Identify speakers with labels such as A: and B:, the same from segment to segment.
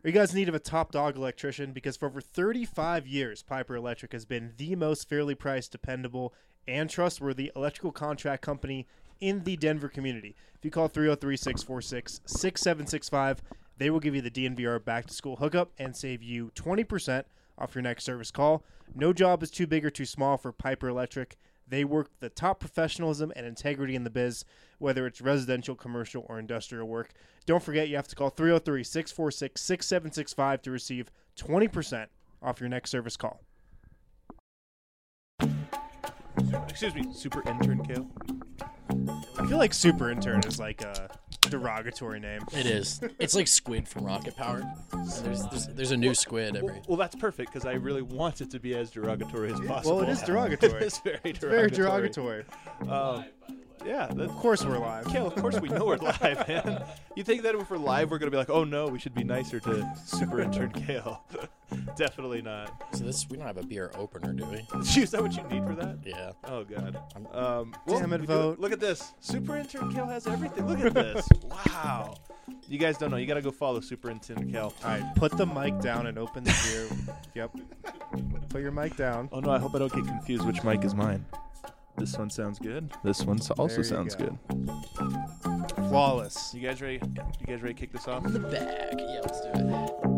A: Are you guys in need of a top dog electrician? Because for over 35 years, Piper Electric has been the most fairly priced, dependable, and trustworthy electrical contract company in the Denver community. If you call 303-646-6765, they will give you the DNVR back-to-school hookup and save you 20% off your next service call. No job is too big or too small for Piper Electric. They work the top professionalism and integrity in the biz, whether it's residential, commercial, or industrial work. Don't forget, you have to call 303-646-6765 to receive 20% off your next service call.
B: Excuse me, super intern Kale.
A: I feel like super intern is like a derogatory name.
C: It is. It's like Squid from Rocket Power. There's a new Squid every.
B: Well, that's perfect because I really want it to be as derogatory as possible.
A: Well, it is derogatory.
B: It's very
A: Very
B: derogatory.
A: derogatory.
B: Yeah.
A: Of course we're live.
B: Kale, of course we know we're live, man. You think that if we're live, we're going to be like, oh, no, we should be nicer to super intern Kale. Definitely not.
C: So we don't have a beer opener, do we?
B: Is that what you need for that?
C: Yeah.
B: Oh, God.
A: Damn it, vote.
B: Look at this. Super intern Kale has everything. Look at this. Wow. You guys don't know. You got to go follow super intern Kale.
A: All right, put the mic down and open the beer. Yep. Put your mic down.
B: Oh, no, I hope I don't get confused which mic is mine. This one sounds good. This one also
A: you
B: sounds
A: go.
B: good.
A: Flawless.
B: You guys ready? You guys ready to kick this off?
C: The bag. Yeah, let's do it.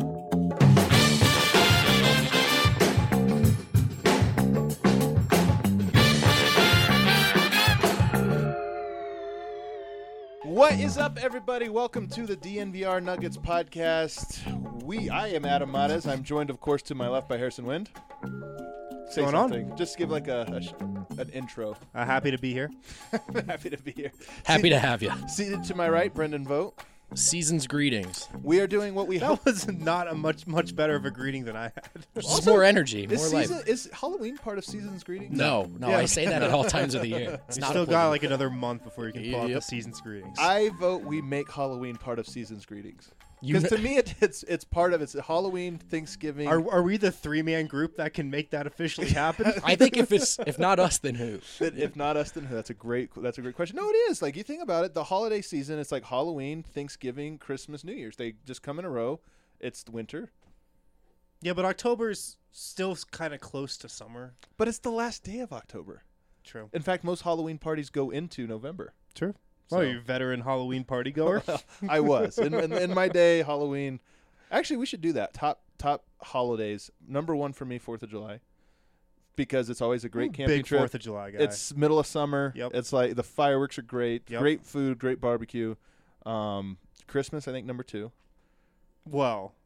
B: What is up, everybody? Welcome to the DNVR Nuggets podcast. I am Adam Matas. I'm joined, of course, to my left by Harrison Wind. Say
A: What's going
B: something. Just give like an intro.
A: Happy to be here.
B: Happy to be here.
C: Happy to have you.
B: Seated to my right, Brendan Vogt.
C: Season's greetings.
B: We are doing what we hope.
A: That was not a much better of a greeting than I had.
C: Just more energy, more life.
B: Is Halloween part of season's greetings?
C: No,
A: Yeah.
C: I say that at all times of the year. It's
A: You
C: not
A: still got
C: applicable.
A: like another month before you can pull out the
C: Yep.
A: season's greetings.
B: I vote we make Halloween part of season's greetings.
C: You
B: Because to me, it's part of it's Halloween, Thanksgiving.
A: Are we the three-man group that can make that officially happen?
C: I think if not us, then who?
B: If not us, then who? That's a great question. No, it is. Like, you think about it, the holiday season, it's like Halloween, Thanksgiving, Christmas, New Year's. They just come in a row. It's winter.
A: Yeah, but October's still kind of close to summer.
B: But it's the last day of October.
A: True.
B: In fact, most Halloween parties go into November.
A: True.
B: So-
A: Oh, you veteran Halloween party goer?
B: I was. In my day, Halloween. Actually, we should do that. Top holidays. Number one for me, 4th of July. Because it's always a great camping
A: Big
B: trip.
A: 4th of July guy.
B: It's middle of summer.
A: Yep.
B: It's like the fireworks are great.
A: Yep.
B: Great food, great barbecue. Christmas, I think, number 2.
A: well,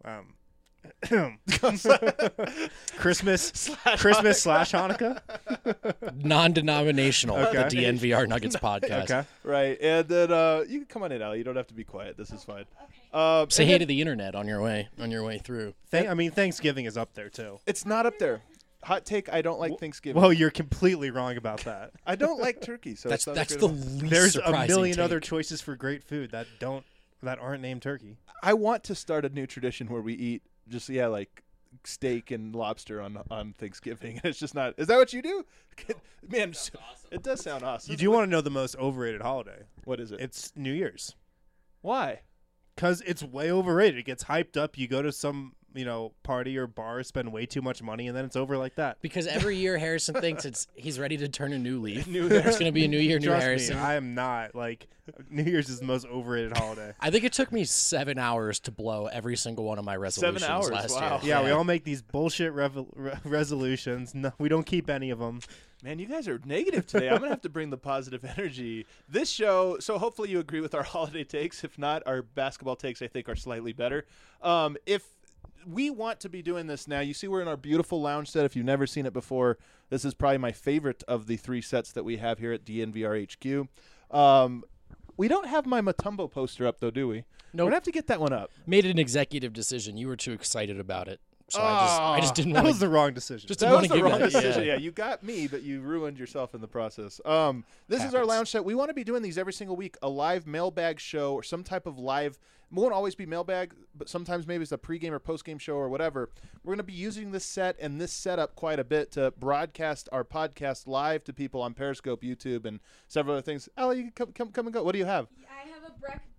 A: Christmas slash Hanukkah.
C: Non-denominational.
A: Okay.
C: The DNVR Nuggets podcast.
A: Okay.
B: Right. And then you can come on in, Allie. You don't have to be quiet. This is fine.
C: Say
B: and
C: hey
B: then-
C: to the internet on your way through.
A: Thanksgiving is up there too.
B: It's not up there. Hot take, I don't like Thanksgiving.
A: Well, you're completely wrong about that.
B: I don't like turkey, so
C: That's
B: it's not a
C: the
B: great one.
C: least
A: There's a
C: surprising
A: million
C: take.
A: other choices for great food that aren't named turkey.
B: I want to start a new tradition where we eat just like steak and lobster on Thanksgiving. It's just not. Is that what you do? Man, it does sound awesome.
A: You do want to know the most overrated holiday?
B: What is it?
A: It's New Year's.
B: Why?
A: Because it's way overrated. It gets hyped up. You go to some party or bar, spend way too much money, and then it's over like that.
C: Because every year Harrison thinks he's ready to turn a new leaf.
B: New
C: It's going to be a new year, new
A: Trust
C: Harrison.
A: me, I am not. Like, New Year's is the most overrated holiday.
C: I think it took me 7 hours to blow every single one of my resolutions
B: 7 hours,
C: last
B: wow.
C: year.
A: Yeah, we all make these bullshit resolutions. No, we don't keep any of them.
B: Man, you guys are negative today. I'm going to have to bring the positive energy. This show, so hopefully you agree with our holiday takes. If not, our basketball takes, I think, are slightly better. If we want to be doing this now, you see we're in our beautiful lounge set. If you've never seen it before, this is probably my favorite of the 3 sets that we have here at DNVR HQ. We don't have my Mutombo poster up, though, do we?
C: Nope.
B: We're going to have to get that one up.
C: Made an executive decision. You were too excited about it. So I just didn't
A: That
C: want
A: was
C: to.
A: the wrong decision.
C: Just
B: That
C: didn't
B: was
C: want
B: the
C: to
B: wrong
C: give that.
B: decision.
C: Yeah.
B: Yeah, you got me, but you ruined yourself in the process. This is our
C: Happens.
B: lounge set. We want to be doing these every single week, a live mailbag show or some type of live. It won't always be mailbag, but sometimes maybe it's a pregame or postgame show or whatever. We're going to be using this set and this setup quite a bit to broadcast our podcast live to people on Periscope, YouTube, and several other things. Allie, you can come and go. What do you have?
D: I have a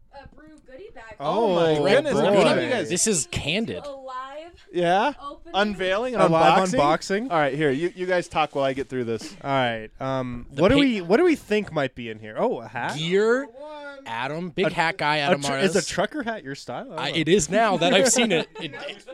D: brew goodie bag.
B: Oh my
A: Oh,
B: goodness!
A: boy.
B: Good on you guys.
C: This is candid.
D: A live
B: Yeah.
D: opening.
B: Unveiling and
A: A live
B: unboxing.
A: unboxing.
B: All right, here you guys talk while I get through this.
A: All right. What do we think might be in here? Oh, a hat.
C: Gear, Adam, big hat guy, Adam
A: Is a
C: Martis.
A: trucker hat your style? I don't know.
C: It is now that I've seen it.
B: I'm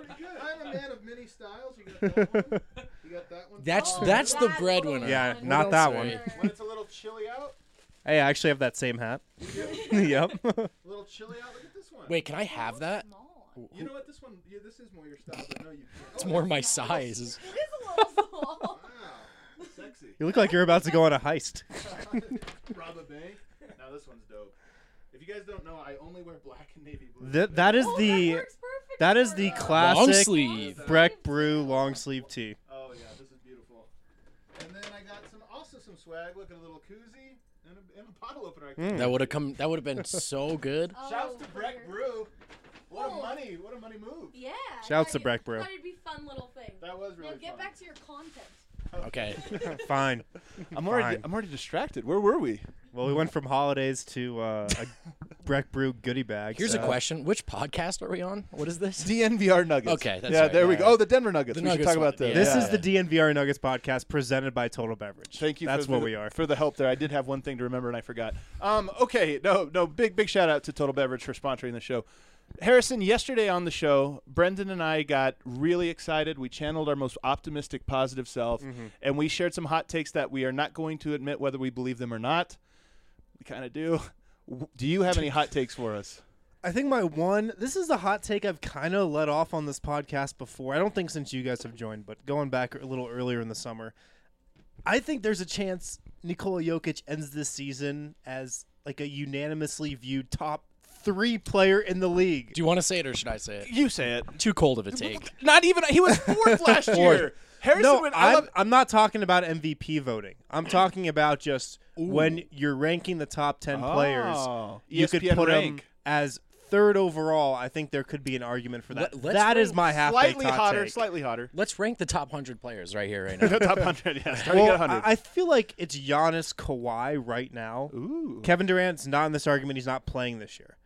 B: a man of many styles. You got that one. You got that one.
C: That's
D: Oh,
C: that's the
D: that
C: breadwinner.
D: little
A: Yeah,
D: one.
A: not that
C: else,
A: one.
C: right?
B: When it's a little chilly out.
A: Hey, I actually have that same hat. Yep.
B: A little chilly out. Look at this one.
C: Wait, can I have that?
D: Small.
B: You know what? This one. Yeah, this is more your style, but no, you can't.
C: It's more my
D: It
C: size.
D: is a little small.
B: Wow. Sexy.
A: You look like you're about to go on a heist.
B: Rob a bank. Now this one's dope. If you guys don't know, I only wear black and navy blue.
A: That is
D: Oh,
A: the
D: that works perfect
A: that is
D: for
A: the
D: us.
A: classic
C: Long sleeve.
A: Breck Brew long sleeve tee.
B: Oh yeah, this is beautiful. And then I got some swag. Look at a little koozie and a bottle opener.
C: That would have come. That would have been so good.
D: Oh,
B: Shouts to
D: for
B: Breck
D: your-
B: Brew. What
D: Cool.
B: a money move.
D: Yeah.
A: Shouts to
D: thought
A: Breck
D: it-
A: Brew.
D: Thought it'd be a fun little thing.
B: That was really
D: Now get
B: fun.
D: back to your content.
C: Okay.
A: Fine.
B: I'm
A: Fine.
B: already distracted. Where were we?
A: Well, we went from holidays to a Breck Brew goodie bag.
C: Here's
A: so.
C: a question: which podcast are we on? What is this?
B: DNVR Nuggets.
C: Okay, that's
B: yeah,
C: right,
B: there we
C: yeah.
B: go. Oh, the Denver Nuggets.
C: The
B: We should
C: Nuggets
B: talk about
C: one,
B: this.
A: This
C: yeah.
A: is the DNVR Nuggets podcast presented by Total Beverage.
B: Thank you.
A: That's
B: for
A: what
B: the,
A: we are.
B: for the help there. I did have one thing to remember and I forgot. Okay, no, big shout out to Total Beverage for sponsoring the show. Harrison, yesterday on the show, Brendan and I got really excited. We channeled our most optimistic, positive self, and we shared some hot takes that we are not going to admit whether we believe them or not. We kind of do. Do you have any hot takes for us?
A: I think this is a hot take I've kind of let off on this podcast before. I don't think since you guys have joined, but going back a little earlier in the summer, I think there's a chance Nikola Jokic ends this season as like a unanimously viewed top 3 player in the league.
C: Do you want to say it or should I say it?
B: You say it.
C: Too cold of a take.
B: Not even. He was fourth last year. Harrison
A: No,
B: went. I love,
A: I'm not talking about MVP voting. I'm talking about just when you're ranking the top 10 players,
B: Oh.
A: you could
B: ESPN
A: put him
B: rank.
A: as 3rd overall. I think there could be an argument for that.
C: Let's
A: That is
C: rank
A: my half-baked hot take.
B: Slightly hotter.
C: Let's rank the top 100 players right here, right now.
B: The top 100, yeah. Starting
A: Well,
B: at 100.
A: I feel like it's Giannis, Kawhi right now.
B: Ooh.
A: Kevin Durant's not in this argument. He's not playing this year.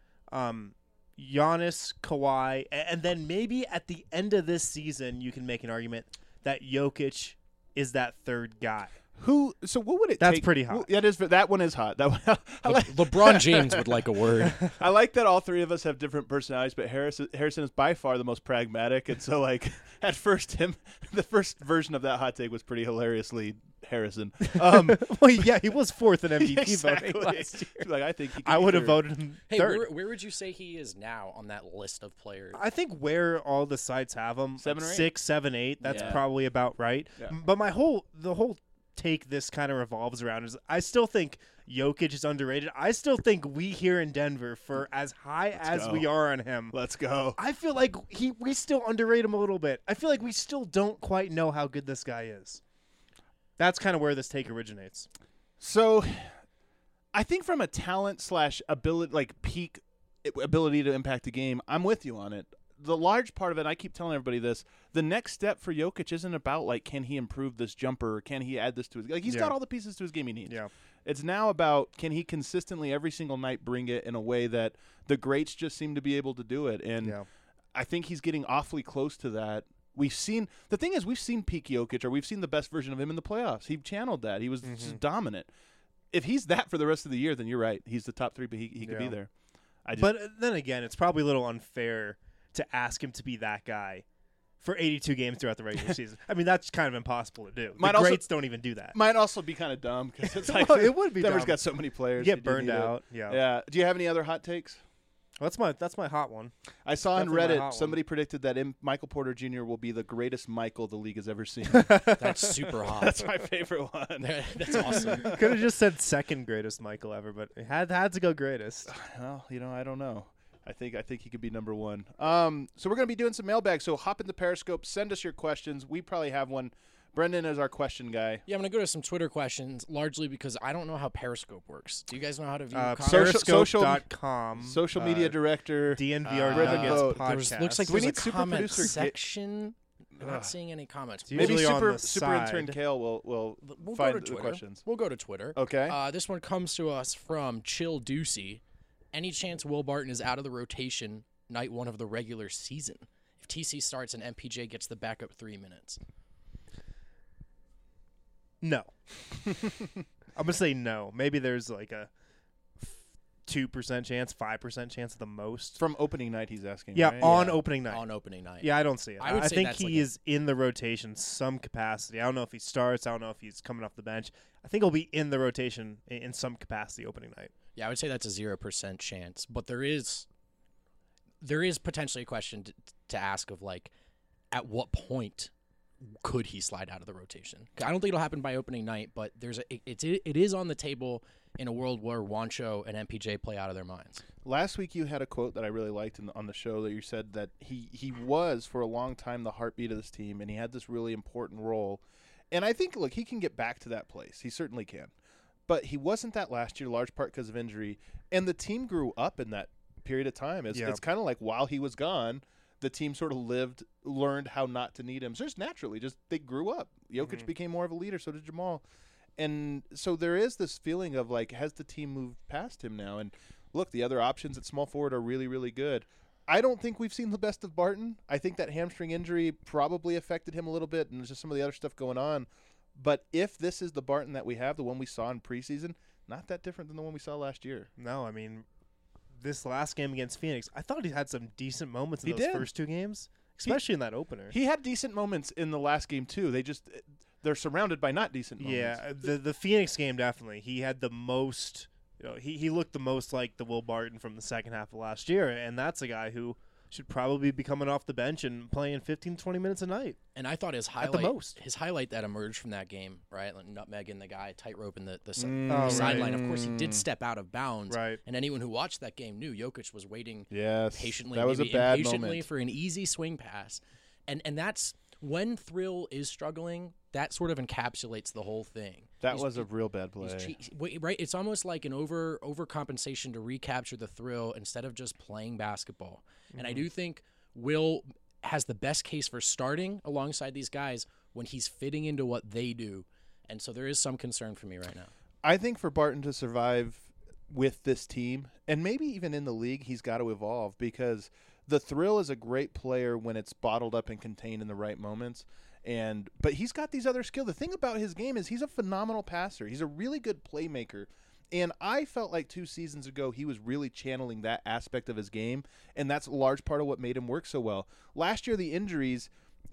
A: Giannis, Kawhi, and then maybe at the end of this season, you can make an argument that Jokic is that 3rd guy.
B: So what would it
A: That's
B: take?
A: pretty hot.
B: Yeah, that one is hot. That one,
C: LeBron James would like a word.
B: I like that all three of us have different personalities, but Harrison is by far the most pragmatic, and so like at first the first version of that hot take was pretty hilariously Harrison.
A: Well, yeah, he was 4th in MVP
B: exactly.
A: voting last year.
B: Like I think
A: I would have voted him
C: Hey,
A: 3rd.
C: where would you say he is now on that list of players?
A: I think where all the sites have him,
B: 7 or 8?
A: 6, 7, 8. That's
C: Yeah.
A: probably about right.
B: Yeah.
A: But the whole take this kind of revolves around is I still think Jokic is underrated. I still think we here in Denver, for as high as
B: go.
A: we are on him,
B: Let's go.
A: I feel like we still underrate him a little bit. I feel like we still don't quite know how good this guy is. That's kind of where this take originates.
B: So, I think from a talent / ability, like peak ability to impact a game, I'm with you on it. The large part of it, I keep telling everybody this, the next step for Jokic isn't about, like, can he improve this jumper or can he add this to his – like, he's got all the pieces to his game he needs.
A: Yeah.
B: It's now about can he consistently every single night bring it in a way that the greats just seem to be able to do it. And
A: Yeah.
B: I think he's getting awfully close to that. We've seen – the thing is we've seen peak Jokic, or we've seen the best version of him in the playoffs. He channeled that. He was just dominant. If he's that for the rest of the year, then you're right. He's the top 3, but he could be
A: Yeah.
B: there.
A: But then again, it's probably a little unfair to ask him to be that guy for 82 games throughout the regular season. I mean, that's kind of impossible to do.
B: Might
A: The
B: also-
A: greats don't even do that.
B: might also be kind of dumb because it's like
A: Well, it would be
B: Denver's
A: dumb.
B: got so many players.
A: You
B: you
A: get
B: do
A: burned
B: need it.
A: out. Yeah.
B: Yeah. Do you have any other hot takes?
A: Well, that's my hot one.
B: I saw on
A: Definitely my hot
B: Reddit
A: one.
B: somebody predicted that Michael Porter Jr. will be the greatest Michael the league has ever seen.
C: That's super hot.
B: That's my favorite one.
C: That's awesome.
A: Could have just said second greatest Michael ever, but it had to go greatest.
B: Well, I don't know. I think he could be number 1. So we're gonna be doing some mailbags. So hop in the Periscope, send us your questions. We probably have one. Brendan is our question guy.
C: Yeah, I'm going to go to some Twitter questions, largely because I don't know how Periscope works. Do you guys know how to view comments?
A: Periscope.com.
B: Social media director.
A: DNVR
B: Brendan
A: Nuggets
B: Vogt.
A: podcast.
C: Looks like
B: Do we
C: there's
B: need
C: a
B: super
C: comment
B: producer
C: section. I'm not seeing any comments.
A: It's
B: Maybe
A: usually on
B: super
A: the
B: intern
A: side.
B: Kale will
C: We'll
B: find
C: go to
B: the
C: Twitter.
B: questions.
C: We'll go to Twitter.
B: Okay.
C: This one comes to us from Chill Doocy. any chance Will Barton is out of the rotation night one of the regular season if TC starts and MPJ gets the backup 3 minutes?
A: No. I'm gonna say no. Maybe there's like a 2% chance, 5% chance at the most.
B: From opening night, he's asking.
A: Yeah,
B: right?
A: on opening night.
C: On opening night.
A: Yeah, I don't see it.
C: I would say
A: think
C: that's
A: he
C: like
A: is in the rotation some capacity. I don't know if he starts. I don't know if he's coming off the bench. I think he'll be in the rotation in some capacity opening night.
C: Yeah, I would say that's a 0% chance, but there is potentially a question to ask of like, at what point could he slide out of the rotation? I don't think it'll happen by opening night, but it is on the table in a world where Juancho and MPJ play out of their minds.
B: Last week you had a quote that I really liked on the show that you said that he was for a long time the heartbeat of this team, and he had this really important role. And I think, look, he can get back to that place. He certainly can. But he wasn't that last year, large part because of injury. And the team grew up in that period of time. It's kind of like while he was gone, the team sort of learned how not to need him. So just naturally, they grew up. Jokic became more of a leader, so did Jamal. And so there is this feeling of like, has the team moved past him now? And look, the other options at small forward are really, really good. I don't think we've seen the best of Barton. I think that hamstring injury probably affected him a little bit, and there's just some of the other stuff going on. But if this is the Barton that we have, the one we saw in preseason, not that different than the one we saw last year.
A: No, I mean, this last game against Phoenix, I thought he had some decent moments in
B: He
A: those
B: did.
A: first two games, especially in that opener.
B: He had decent moments in the last game too. They're surrounded by not decent moments.
A: Yeah, the Phoenix game definitely. He had the most. He looked the most like the Will Barton from the second half of last year, and that's a guy who should probably be coming off the bench and playing 15, 20 minutes a night.
C: And I thought his
A: At the most.
C: highlight that emerged from that game, right? Like nutmegging the guy, tightrope in the
A: right.
C: sideline. Of course, he did step out of bounds.
A: Right.
C: And anyone who watched that game knew Jokic was waiting patiently,
B: that was a
C: maybe
B: bad
C: impatiently
B: moment.
C: for an easy swing pass. And that's when Thrill is struggling, that sort of encapsulates the whole thing.
B: That was a real bad play.
C: Right? It's almost like an overcompensation to recapture the thrill instead of just playing basketball. And I do think Will has the best case for starting alongside these guys when he's fitting into what they do. And so there is some concern for me right now.
B: I think for Barton to survive with this team, and maybe even in the league, he's got to evolve because the Thrill is a great player when it's bottled up and contained in the right moments. But he's got these other skills. The thing about his game is he's a phenomenal passer. He's a really good playmaker. And I felt like 2 seasons ago he was really channeling that aspect of his game, and that's a large part of what made him work so well. Last year, the injuries,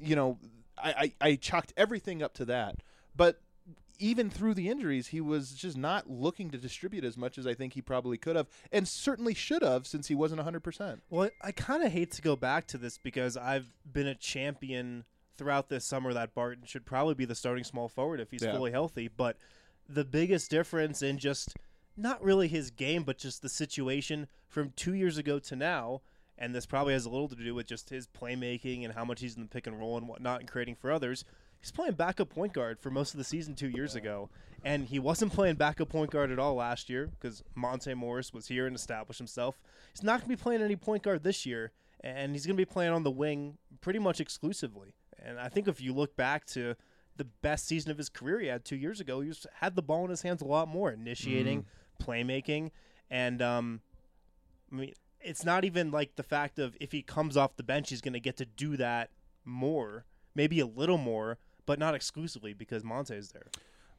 B: I chalked everything up to that. But even through the injuries, he was just not looking to distribute as much as I think he probably could have, and certainly should have since he wasn't 100%.
A: Well, I kind of hate to go back to this because I've been a champion throughout this summer that Barton should probably be the starting small forward if he's fully healthy. But the biggest difference in just not really his game, but just the situation from 2 years ago to now, and this probably has a little to do with just his playmaking and how much he's in the pick and roll and whatnot and creating for others. He's playing backup point guard for most of the season 2 years ago, and he wasn't playing backup point guard at all last year because Monte Morris was here and established himself. He's not going to be playing any point guard this year, and he's going to be playing on the wing pretty much exclusively. And I think if you look back to the best season of his career he had 2 years ago, he had the ball in his hands a lot more, initiating, playmaking, and I mean, it's not even like the fact of if he comes off the bench, he's going to get to do that more, maybe a little more, but not exclusively because Monte's there.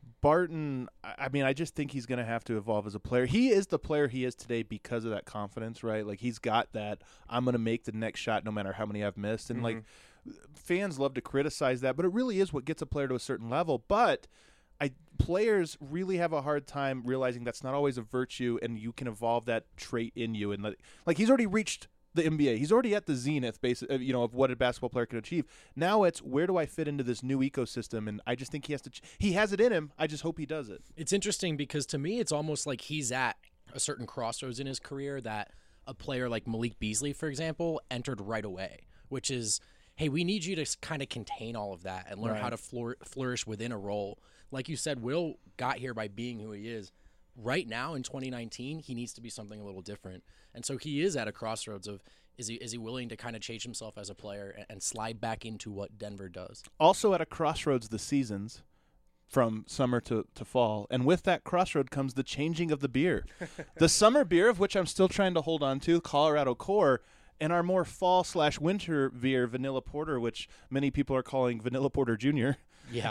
B: Barton, I mean, I just think he's going to have to evolve as a player. He is the player he is today because of that confidence, right? Like, he's got that, I'm going to make the next shot no matter how many I've missed. And, like, fans love to criticize that, but it really is what gets a player to a certain level. But players really have a hard time realizing that's not always a virtue, and you can evolve that trait in you. And, like he's already reached the NBA. He's already at the zenith, of what a basketball player can achieve. Now it's, where do I fit into this new ecosystem? And I just think he has to. He has it in him. I just hope he does it.
C: It's interesting because to me, it's almost like he's at a certain crossroads in his career that a player like Malik Beasley, for example, entered right away, which is, hey, we need you to kind of contain all of that and learn how to flourish within a role. Like you said, Will got here by being who he is. Right now in 2019, he needs to be something a little different. And so he is at a crossroads of, is he willing to kind of change himself as a player and slide back into what Denver does?
B: Also at a crossroads, the seasons. from summer to fall. And with that crossroad comes the changing of the beer. The summer beer, of which I'm still trying to hold on to, Colorado Core, and our more fall/winter beer, Vanilla Porter, which many people are calling Vanilla Porter Jr.
C: Yeah.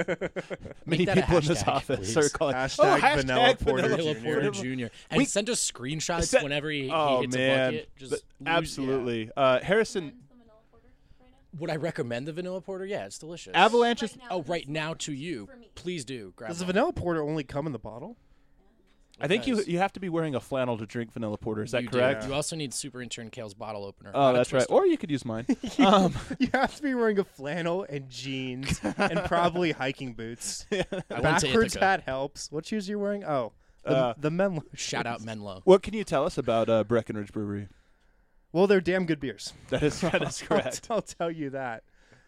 B: Many
C: that a
B: people in this
C: hashtag,
B: office
C: please.
B: are calling
A: Hashtag Vanilla Porter
C: Vanilla
A: Jr.
C: Porter Jr. And
B: We-
C: send us screenshots
B: Send-
C: whenever he
B: Oh,
C: hits
B: man.
C: a bucket. Just lose-
B: Absolutely. Harrison,
D: When's the vanilla porter right now?
C: Would I recommend the vanilla porter? Yeah, it's delicious.
B: Avalanche is.
D: Right now,
C: Oh,
D: this
C: right now
D: one
C: to you.
D: for me.
C: Please do. Grab
A: Does the
C: one.
A: vanilla porter only come in the bottle?
B: I think you
C: Nice.
B: you have to be wearing a flannel to drink Vanilla Porter. Is that
C: You do.
B: correct?
C: You also need Super Intern Kale's bottle opener.
B: Oh,
C: not a
B: that's right.
C: twister.
B: Or you could use mine. um,
A: You have to be wearing a flannel and jeans and probably hiking boots.
C: I went to
A: Backwards
C: Ithaca.
A: hat helps. What shoes are you wearing? Oh,
B: Uh,
A: the Menlo.
C: Shout out
A: shoes.
C: Menlo.
B: what can you tell us about Breckenridge Brewery?
A: Well, they're damn good beers.
B: That is correct.
A: I'll tell you that.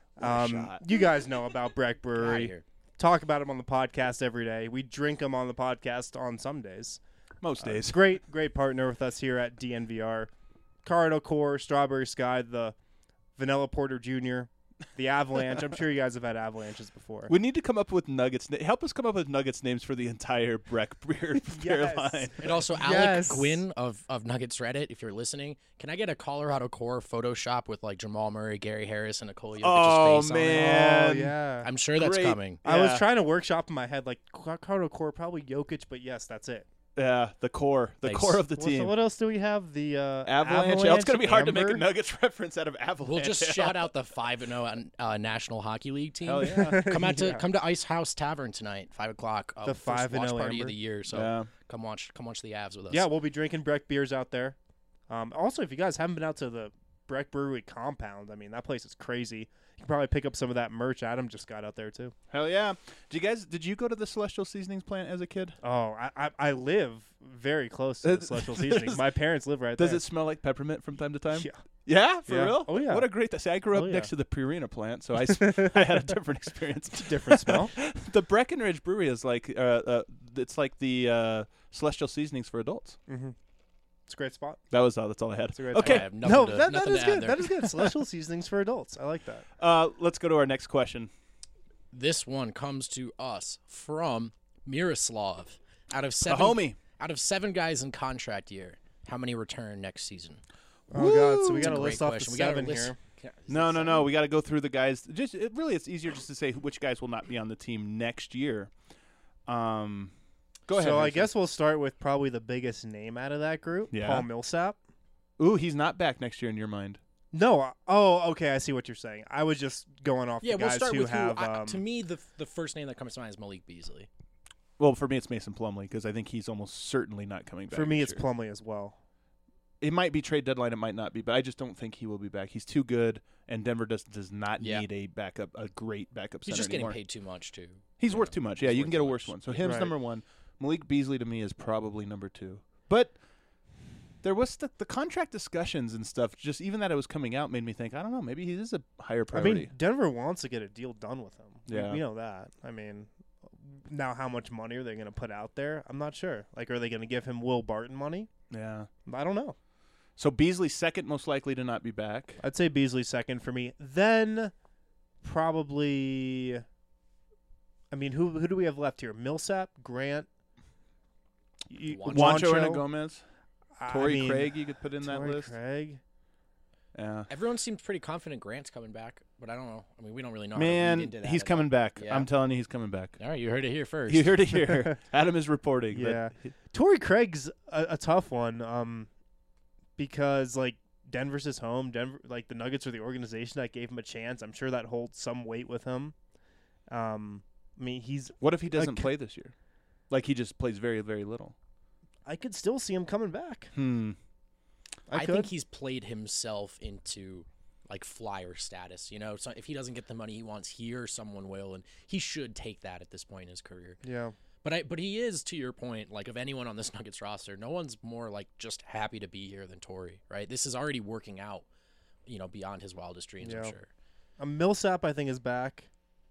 B: a shot.
A: You guys know about Breck
C: Get outta
A: Brewery.
C: here.
A: Talk about them on the podcast every day. We drink them on the podcast on some days.
B: Most days.
A: Great partner with us here at DNVR. Colorado Core, Strawberry Sky, the Vanilla Porter Jr., the Avalanche. I'm sure you guys have had Avalanches before.
B: We need to come up with Nuggets. Help us come up with Nuggets names for the entire Breck beer
A: Yes.
B: line.
C: And also,
A: Yes.
C: Alec Gwynn of Nuggets Reddit, if you're listening, can I get a Colorado Core Photoshop with like Jamal Murray, Gary Harris, and Nicole Jokic's
B: Oh,
C: face
B: man.
A: Oh, yeah.
C: on it? I'm sure that's
B: Great.
C: coming.
A: I was
B: Yeah.
A: trying to workshop in my head, like, Colorado Core, probably Jokic, but yes, that's it.
B: Yeah, the core
C: Thanks.
B: core of the
A: So
B: team.
A: what else do we have? The
B: Avalanche. Oh, it's going to be hard to make a
A: Amber?
B: Nuggets reference out of Avalanche.
C: We'll just shout out the 5-0 National Hockey League team.
B: Hell yeah.
A: Yeah.
C: Come to Ice House Tavern tonight, 5:00.
A: The
C: first
A: 5-0
C: watch party
A: Amber.
C: of the year. So
B: Yeah.
C: come watch the Avs with us.
A: Yeah, we'll be drinking Breck beers out there. Also, if you guys haven't been out to the Breck Brewery compound, I mean, that place is crazy. You can probably pick up some of that merch Adam just got out there, too.
B: Hell yeah. Did you go to the Celestial Seasonings plant as a kid?
A: Oh, I live very close to the Celestial Seasoning. My parents live right
B: Does
A: there.
B: it smell like peppermint from time to time?
A: Yeah.
B: Yeah, for
A: Yeah.
B: real?
A: Oh, yeah.
B: What a great See, I grew up
A: Oh, yeah.
B: next to the Purina plant, so I had a different experience.
A: Different smell.
B: The Breckenridge Brewery is like it's like the Celestial Seasonings for adults.
A: Mm-hmm. It's a great spot.
B: That's all I had.
A: It's a great
C: I
B: Okay,
C: have
A: No,
C: nothing to,
A: that
C: nothing
A: is
C: to add
A: good.
C: there.
A: That is good. Celestial Seasonings for adults. I like that.
B: let's go to our next question.
C: This one comes to us from Miroslav. Out of
B: A
C: seven,
B: homie.
C: Out of 7 guys in contract year, how many return next season?
A: Oh, God. So we
C: It's a
A: got to
C: great
A: list off
C: question.
A: the
C: We gotta
A: 7
C: list-
A: here.
B: No. We got to go through the guys. It's easier just to say which guys will not be on the team next year. Go ahead.
A: So I
B: Harrison.
A: guess we'll start with probably the biggest name out of that group,
B: Yeah.
A: Paul Millsap.
B: Ooh, he's not back next year in your mind.
A: No. Okay. I see what you're saying. I was just going off
C: Yeah,
A: the
C: we'll
A: guys
C: start
A: who
C: with
A: have.
C: who. To me, the first name that comes to mind is Malik Beasley.
B: Well, for me, it's Mason Plumlee because I think he's almost certainly not coming back.
A: for me,
B: next
A: it's
B: year.
A: Plumlee as well.
B: It might be trade deadline. It might not be, but I just don't think he will be back. He's too good, and Denver does not
C: Yeah.
B: need a great backup
C: He's
B: center
C: just
B: anymore.
C: getting paid too much too.
B: He's
C: you
B: worth
C: know.
B: too much. Yeah,
C: He's
B: you
C: worth
B: can get a
C: too
B: worse
C: much.
B: one. So him's
A: Right.
B: number 1. Malik Beasley to me is probably number 2. But there was the contract discussions and stuff. Just even that it was coming out made me think. I don't know. Maybe he is a higher
A: I
B: priority.
A: mean, Denver wants to get a deal done with him.
B: Yeah.
A: We know that. I mean, now how much money are they going to put out there? I'm not sure. Like, are they going to give him Will Barton money?
B: yeah.
A: I don't know.
B: So Beasley second, most likely to not be back.
A: I'd say Beasley second for me. Then probably. I mean, who do we have left here? Millsap, Grant,
B: Juancho and Gomez,
A: I
B: Torrey
A: mean,
B: Craig. You could put in that
A: Torrey
B: list.
A: Craig.
B: Yeah.
C: Everyone seems pretty confident Grant's coming back, but I don't know. I mean, we don't really know. how to
B: Man,
C: read into that
B: he's
C: at
B: coming
C: all.
B: back.
C: Yeah.
B: I'm telling you, he's coming back.
C: All right, you heard it here first.
B: You heard it here. Adam is reporting. but-
A: Yeah. Torrey Craig's a tough one, because like Denver's his home. Denver, like the Nuggets are the organization that gave him a chance. I'm sure that holds some weight with him. I mean,
B: What if he doesn't
A: Like-
B: play this year? Like he just plays very, very little.
A: I could still see him coming back.
C: I
A: could.
C: think he's played himself into like flyer status. You know, so if he doesn't get the money he wants here, someone will, and he should take that at this point in his career.
A: Yeah.
C: But he is, to your point, like of anyone on this Nuggets roster, no one's more like just happy to be here than Torrey, right? This is already working out, you know, beyond his wildest dreams, I'm
A: Yeah.
C: sure.
A: Millsap, I think, is back.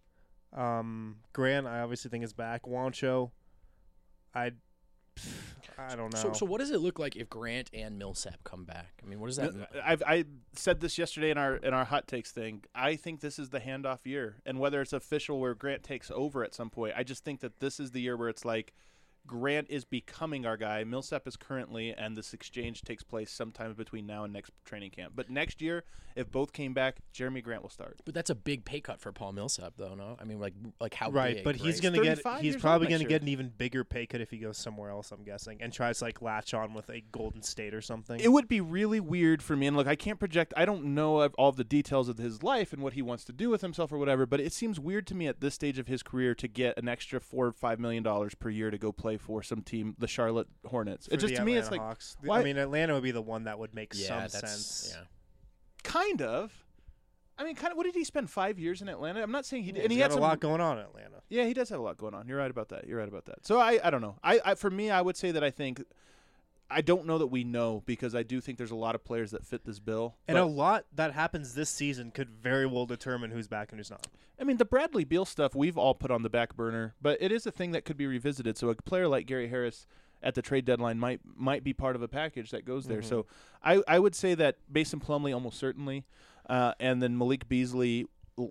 A: Grant, I obviously think is back. Juancho, I don't know.
C: So what does it look like if Grant and Millsap come back? I mean, what does that mean?
B: I said this yesterday in our hot takes thing. I think this is the handoff year, and whether it's official where Grant takes over at some point, I just think that this is the year where it's like Grant is becoming our guy. Millsap is currently, and this exchange takes place sometime between now and next training camp. But next year, if both came back, Jeremy Grant will start.
C: But that's a big pay cut for Paul Millsap, though. No, I mean, like how
A: Right,
C: big?
A: but he's
C: right?
A: gonna get.
B: 35
A: He's
B: years
A: probably
B: old next
A: gonna
B: year.
A: get an even bigger pay cut if he goes somewhere else. I'm guessing, and tries to like latch on with a Golden State or something.
B: It would be really weird for me, and look, I can't project. I don't know all of the details of his life and what he wants to do with himself or whatever. But it seems weird to me at this stage of his career to get an extra $4 or $5 million per year to go play for some team, the Charlotte Hornets.
A: For
B: It just
A: the
B: to me, it's
A: Atlanta
B: like
A: Hawks.
B: why-
A: I mean, Atlanta would be the one that would make
C: yeah,
A: some
C: that's
A: sense.
C: yeah.
B: kind of. I mean, kind of. What did he spend 5 years in Atlanta? I'm not saying he did. And
A: He's
B: he had
A: got a
B: some,
A: lot going on in Atlanta.
B: Yeah, he does have a lot going on. You're right about that. So I don't know. I for me, I would say that I don't know that we know because I do think there's a lot of players that fit this bill.
A: And
B: but-
A: a lot that happens this season could very well determine who's back and who's not.
B: I mean, the Bradley Beal stuff we've all put on the back burner, but it is a thing that could be revisited. So a player like Gary Harris at the trade deadline might be part of a package that goes there.
A: Mhm.
B: So I would say that Mason Plumlee almost certainly, and then Malik Beasley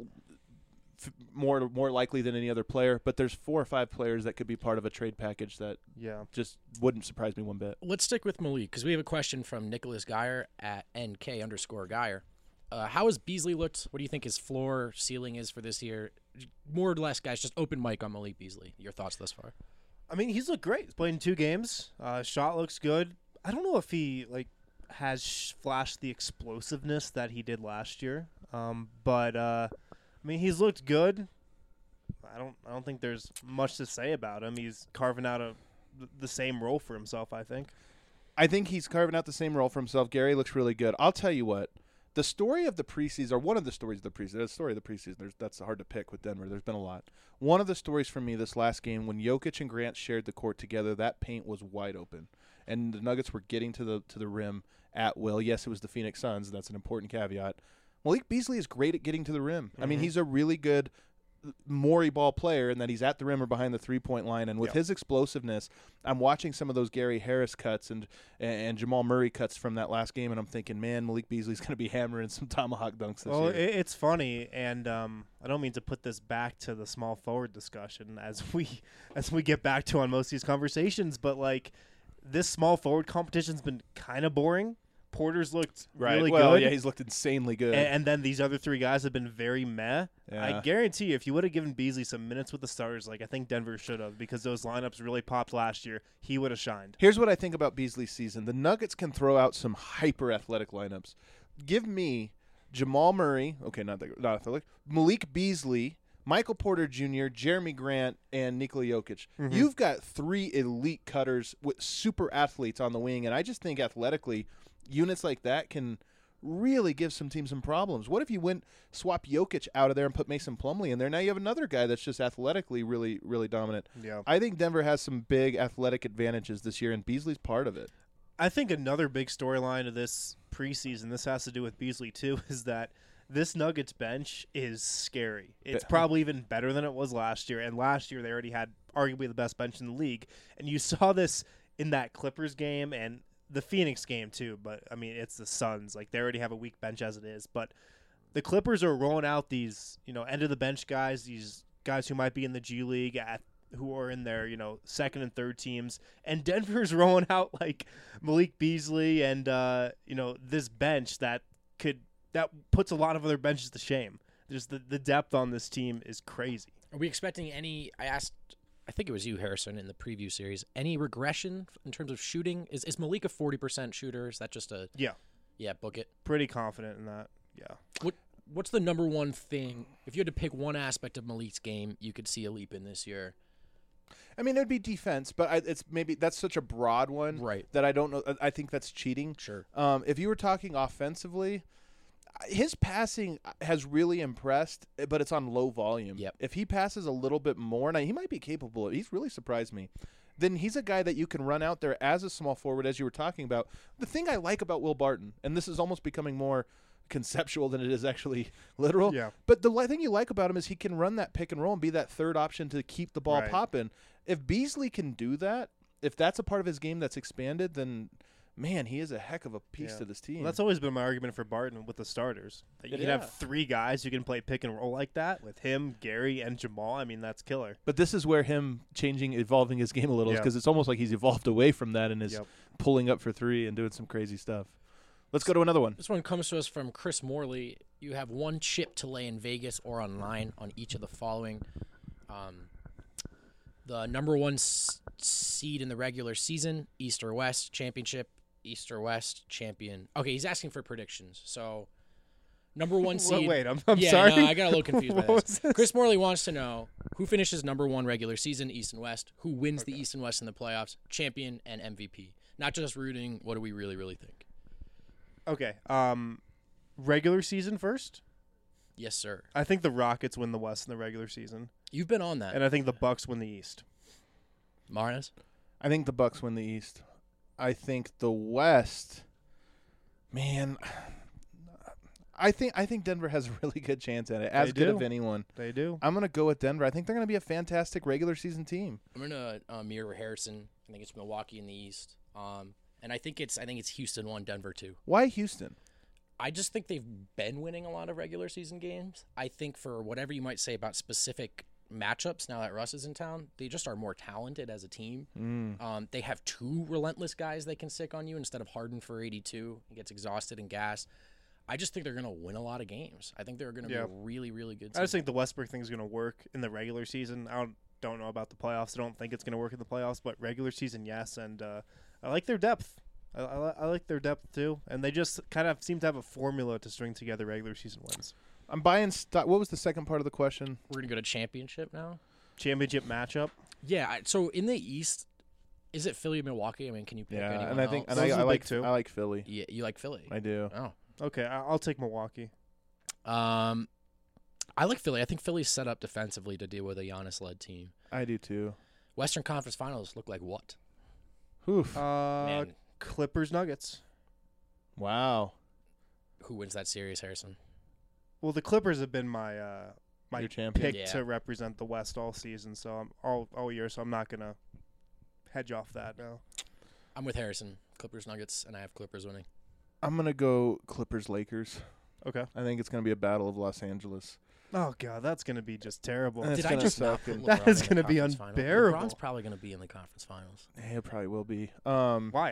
B: more likely than any other player. But there's 4 or 5 players that could be part of a trade package that
A: Yeah.
B: just wouldn't surprise me one bit.
C: Let's stick with Malik because we have a question from Nicholas Geyer at NK_Geyer. How has Beasley looked? What do you think his floor ceiling is for this year? More or less, guys, just open mic on Malik Beasley. Your thoughts thus far?
A: I mean, he's looked great. He's played in 2 games. Shot looks good. I don't know if he has flashed the explosiveness that he did last year. But I mean, he's looked good. I don't think there's much to say about him. He's carving out the same role for himself, I think.
B: I think he's carving out the same role for himself. Gary looks really good. I'll tell you what. The story of the preseason, or one of the stories of the preseason, that's hard to pick with Denver. There's been a lot. One of the stories for me this last game, when Jokic and Grant shared the court together, that paint was wide open. And the Nuggets were getting to the rim at will. Yes, it was the Phoenix Suns. That's an important caveat. Malik Beasley is great at getting to the rim. I mean, he's a really good Morey ball player in that he's at the rim or behind the three-point line. And with his explosiveness, I'm watching some of those Gary Harris cuts and Jamal Murray cuts from that last game, and I'm thinking, man, Malik Beasley's going to be hammering some tomahawk dunks this year.
A: It's funny, and I don't mean to put this back to the small forward discussion as we get back to on most of these conversations, but like this small forward competition's been kind of boring. Porter's looked really good.
B: Yeah, he's looked insanely good.
A: And then these other 3 guys have been very meh.
B: Yeah.
A: I guarantee you, if you would have given Beasley some minutes with the starters, like I think Denver should have, because those lineups really popped last year, he would have shined.
B: Here's what I think about Beasley's season. The Nuggets can throw out some hyper-athletic lineups. Give me Jamal Murray, okay, not athletic, Malik Beasley, Michael Porter Jr., Jeremy Grant, and Nikola Jokic.
A: Mm-hmm.
B: You've got 3 elite cutters with super athletes on the wing, and I just think athletically – units like that can really give some teams some problems. What if you swap Jokic out of there and put Mason Plumlee in there? Now you have another guy that's just athletically really, really dominant.
A: Yeah.
B: I think Denver has some big athletic advantages this year, and Beasley's part of it.
A: I think another big storyline of this preseason, this has to do with Beasley too, is that this Nuggets bench is scary. It's probably even better than it was last year, and last year they already had arguably the best bench in the league. And you saw this in that Clippers game and the Phoenix game too, but I mean it's the Suns. Like they already have a weak bench as it is, but the Clippers are rolling out these, end of the bench guys, these guys who might be in the G League who are in their, second and third teams, and Denver's rolling out like Malik Beasley and this bench that puts a lot of other benches to shame. Just the depth on this team is crazy.
C: Are we expecting any? I think it was you, Harrison, in the preview series. Any regression in terms of shooting? Is Malik a 40% shooter? Is that just a book it?
A: Pretty confident in that. Yeah.
C: What's the number one thing if you had to pick one aspect of Malik's game you could see a leap in this year?
B: I mean, it'd be defense, but that's such a broad one,
C: right?
B: That I don't know. I think that's cheating.
C: Sure.
B: If you were talking offensively, his passing has really impressed, but it's on low volume.
C: Yep.
B: If he passes a little bit more, now he might be capable. He's really surprised me. Then he's a guy that you can run out there as a small forward, as you were talking about. The thing I like about Will Barton, and this is almost becoming more conceptual than it is actually literal.
A: Yeah.
B: But the thing you like about him is he can run that pick and roll and be that third option to keep the ball
A: Right.
B: popping. If Beasley can do that, if that's a part of his game that's expanded, then man, he is a heck of a piece
A: Yeah.
B: to this team.
A: Well, that's always been my argument for Barton with the starters. That you can
B: Yeah.
A: have 3 guys who can play pick and roll like that with him, Gary, and Jamal. I mean, that's killer.
B: But this is where him evolving his game a little,
A: Yeah.
B: because it's almost like he's evolved away from that and is
A: Yep.
B: pulling up for 3 and doing some crazy stuff. Let's go to another one.
C: This one comes to us from Chris Morley. You have 1 chip to lay in Vegas or online on each of the following. The number 1 seed in the regular season, East or West championship, East or West champion. Okay, he's asking for predictions. So, number 1 seed.
A: Wait, I'm
C: yeah,
A: sorry.
C: No, I got a little confused by
A: What
C: this.
A: was this?
C: Chris Morley wants to know who finishes number 1 regular season, East and West, who wins the East and West in the playoffs, champion and MVP. Not just rooting. What do we really, really think?
A: Okay. Regular season first.
C: Yes, sir.
A: I think the Rockets win the West in the regular season,
C: You've been on that,
A: and I think the Bucks win the East.
C: Marnes.
B: I think the Bucks win the East. I think the West, man, I think Denver has a really good chance at it, as
A: They
B: good
A: do.
B: of anyone.
A: They do.
B: I'm going to go with Denver. I think they're going to be a fantastic regular season team.
C: I'm gonna mirror Harrison. I think it's Milwaukee in the East. And I think it's Houston 1, Denver 2.
B: Why Houston?
C: I just think they've been winning a lot of regular season games. I think for whatever you might say about specific matchups, now that Russ is in town, they just are more talented as a team. They have 2 relentless guys they can stick on you instead of Harden for 82. He gets exhausted and gassed. I just think they're going to win a lot of games. I think they're going to be a really, really good team.
A: I just think the Westbrook thing is going to work in the regular season. I don't know about the playoffs. I don't think it's going to work in the playoffs, but regular season, yes. And I like their depth. I like their depth too, and they just kind of seem to have a formula to string together regular season wins.
B: I'm buying stock. What was the second part of the question?
C: We're going to go to championship now.
A: Championship matchup.
C: Yeah, so in the East, is it Philly or Milwaukee? I mean, can you pick anyone
B: and I think
C: else?
B: and
A: Those are
B: I
A: the
B: like
A: big 2.
B: I like Philly.
C: Yeah, you like Philly.
B: I do.
C: Oh.
A: Okay, I'll take Milwaukee.
C: I like Philly. I think Philly's set up defensively to deal with a Giannis-led team.
B: I do too.
C: Western Conference Finals look like what?
B: Oof.
C: Man,
A: Clippers Nuggets.
B: Wow.
C: who wins that series, Harrison?
A: Well, the Clippers have been my
B: Your champion.
A: pick
C: Yeah.
A: to represent the West all season, so I'm all year. So I'm not gonna hedge off that now.
C: I'm with Harrison. Clippers Nuggets, and I have Clippers winning.
B: I'm going to go Clippers Lakers.
A: Okay.
B: I think it's going to be a battle of Los Angeles.
A: Oh god, that's gonna be just terrible.
B: That's
C: Did I
B: gonna
C: just
B: suck.
C: not put
A: That
C: LeBron
A: is
C: in the
A: gonna be
C: conference finals?
A: unbearable.
C: LeBron's probably going to be in the conference finals.
B: Yeah, it probably will be.
A: Why?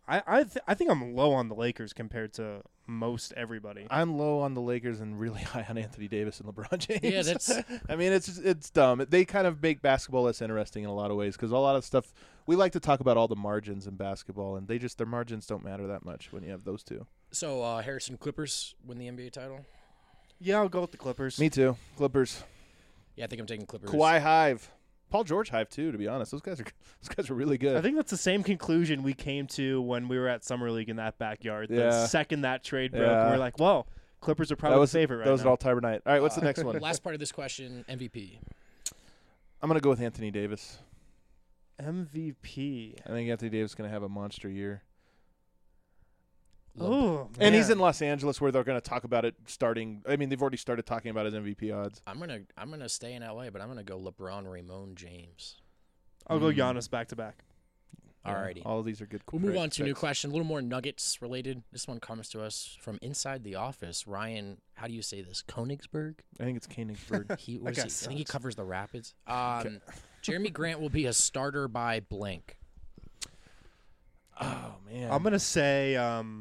A: I think I'm low on the Lakers compared to most everybody.
B: I'm low on the Lakers and really high on Anthony Davis and LeBron James.
C: Yeah, that's
B: I mean, it's dumb. They kind of make basketball less interesting in a lot of ways because a lot of stuff we like to talk about all the margins in basketball, and their margins don't matter that much when you have those two.
C: so. Harrison, Clippers win the NBA title.
A: Yeah, I'll go with the Clippers.
B: Me too. Clippers.
C: Yeah, I think I'm taking Clippers.
B: Kawhi Hive. Paul George Hive too. To be honest, those guys are really good.
A: I think that's the same conclusion we came to when we were at Summer League in that backyard.
B: Yeah.
A: The second that trade broke,
B: Yeah.
A: we were like, well, Clippers are probably
B: that was
A: the favorite right
B: That was
A: now.
B: all Tiber night. All right, what's the next one?
C: Last part of this question: MVP.
B: I'm gonna go with Anthony Davis.
A: MVP.
B: I think Anthony Davis is gonna have a monster year.
A: Oh,
B: And he's
A: man.
B: in Los Angeles where they're going to talk about it starting. I mean, they've already started talking about his MVP odds.
C: I'm gonna stay in LA, but I'm gonna go LeBron, Ramon, James.
A: I'll go Giannis back to back.
C: Alrighty.
B: All of these are good.
C: We'll move on to a new
B: picks.
C: question, a little more Nuggets related. This one comes to us from inside the office. Ryan, how do you say this? Konigsberg?
B: I think it's Koenigsberg.
C: Where's
A: guy
C: he? I think he
A: sucks.
C: covers the Rapids. Jeremy Grant will be a starter by blank.
B: Oh man,
A: I'm going to say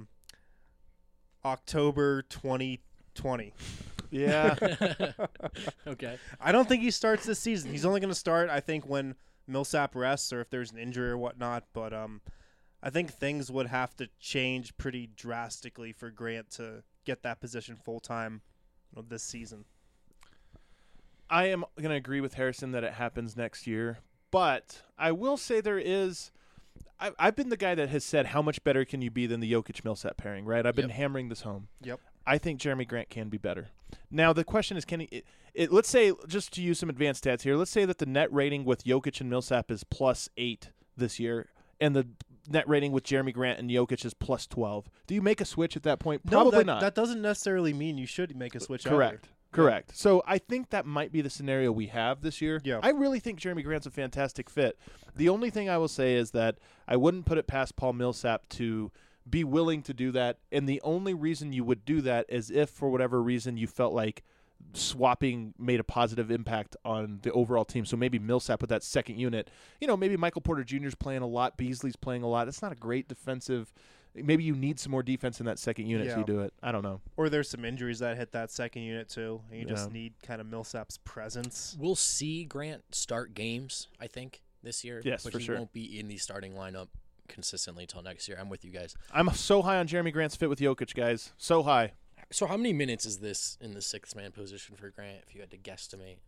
A: October 2020.
B: yeah.
C: Okay.
A: I don't think he starts this season. He's only going to start, I think, when Millsap rests or if there's an injury or whatnot. But I think things would have to change pretty drastically for Grant to get that position full-time this season.
B: I am going to agree with Harrison that it happens next year, but I will say there is. I've been the guy that has said how much better can you be than the Jokic-Millsap pairing, right? I've been
C: Yep.
B: hammering this home.
A: Yep.
B: I think Jeremy Grant can be better. Now the question is, can he? Let's say, just to use some advanced stats here, let's say that the net rating with Jokic and Millsap is +8 this year, and the net rating with Jeremy Grant and Jokic is +12. Do you make a switch at that point? Probably
A: no,
B: not.
A: That doesn't necessarily mean you should make a switch.
B: Correct. Correct. So I think that might be the scenario we have this year.
A: Yeah.
B: I really think Jeremy Grant's a fantastic fit. The only thing I will say is that I wouldn't put it past Paul Millsap to be willing to do that. And the only reason you would do that is if, for whatever reason, you felt like swapping made a positive impact on the overall team. So maybe Millsap with that second unit. Maybe Michael Porter Jr. is playing a lot. Beasley's playing a lot. It's not a great defensive. Maybe you need some more defense in that second unit if you do it. I don't know.
A: Or there's some injuries that hit that second unit too, and you just
B: Yeah.
A: need kind of Millsap's presence.
C: We'll see Grant start games, I think, this year.
B: Yes,
C: but
B: for
C: he
B: sure.
C: won't be in the starting lineup consistently until next year. I'm with you guys.
B: I'm so high on Jeremy Grant's fit with Jokic, guys. So high.
C: So how many minutes is this in the sixth man position for Grant, if you had to guesstimate?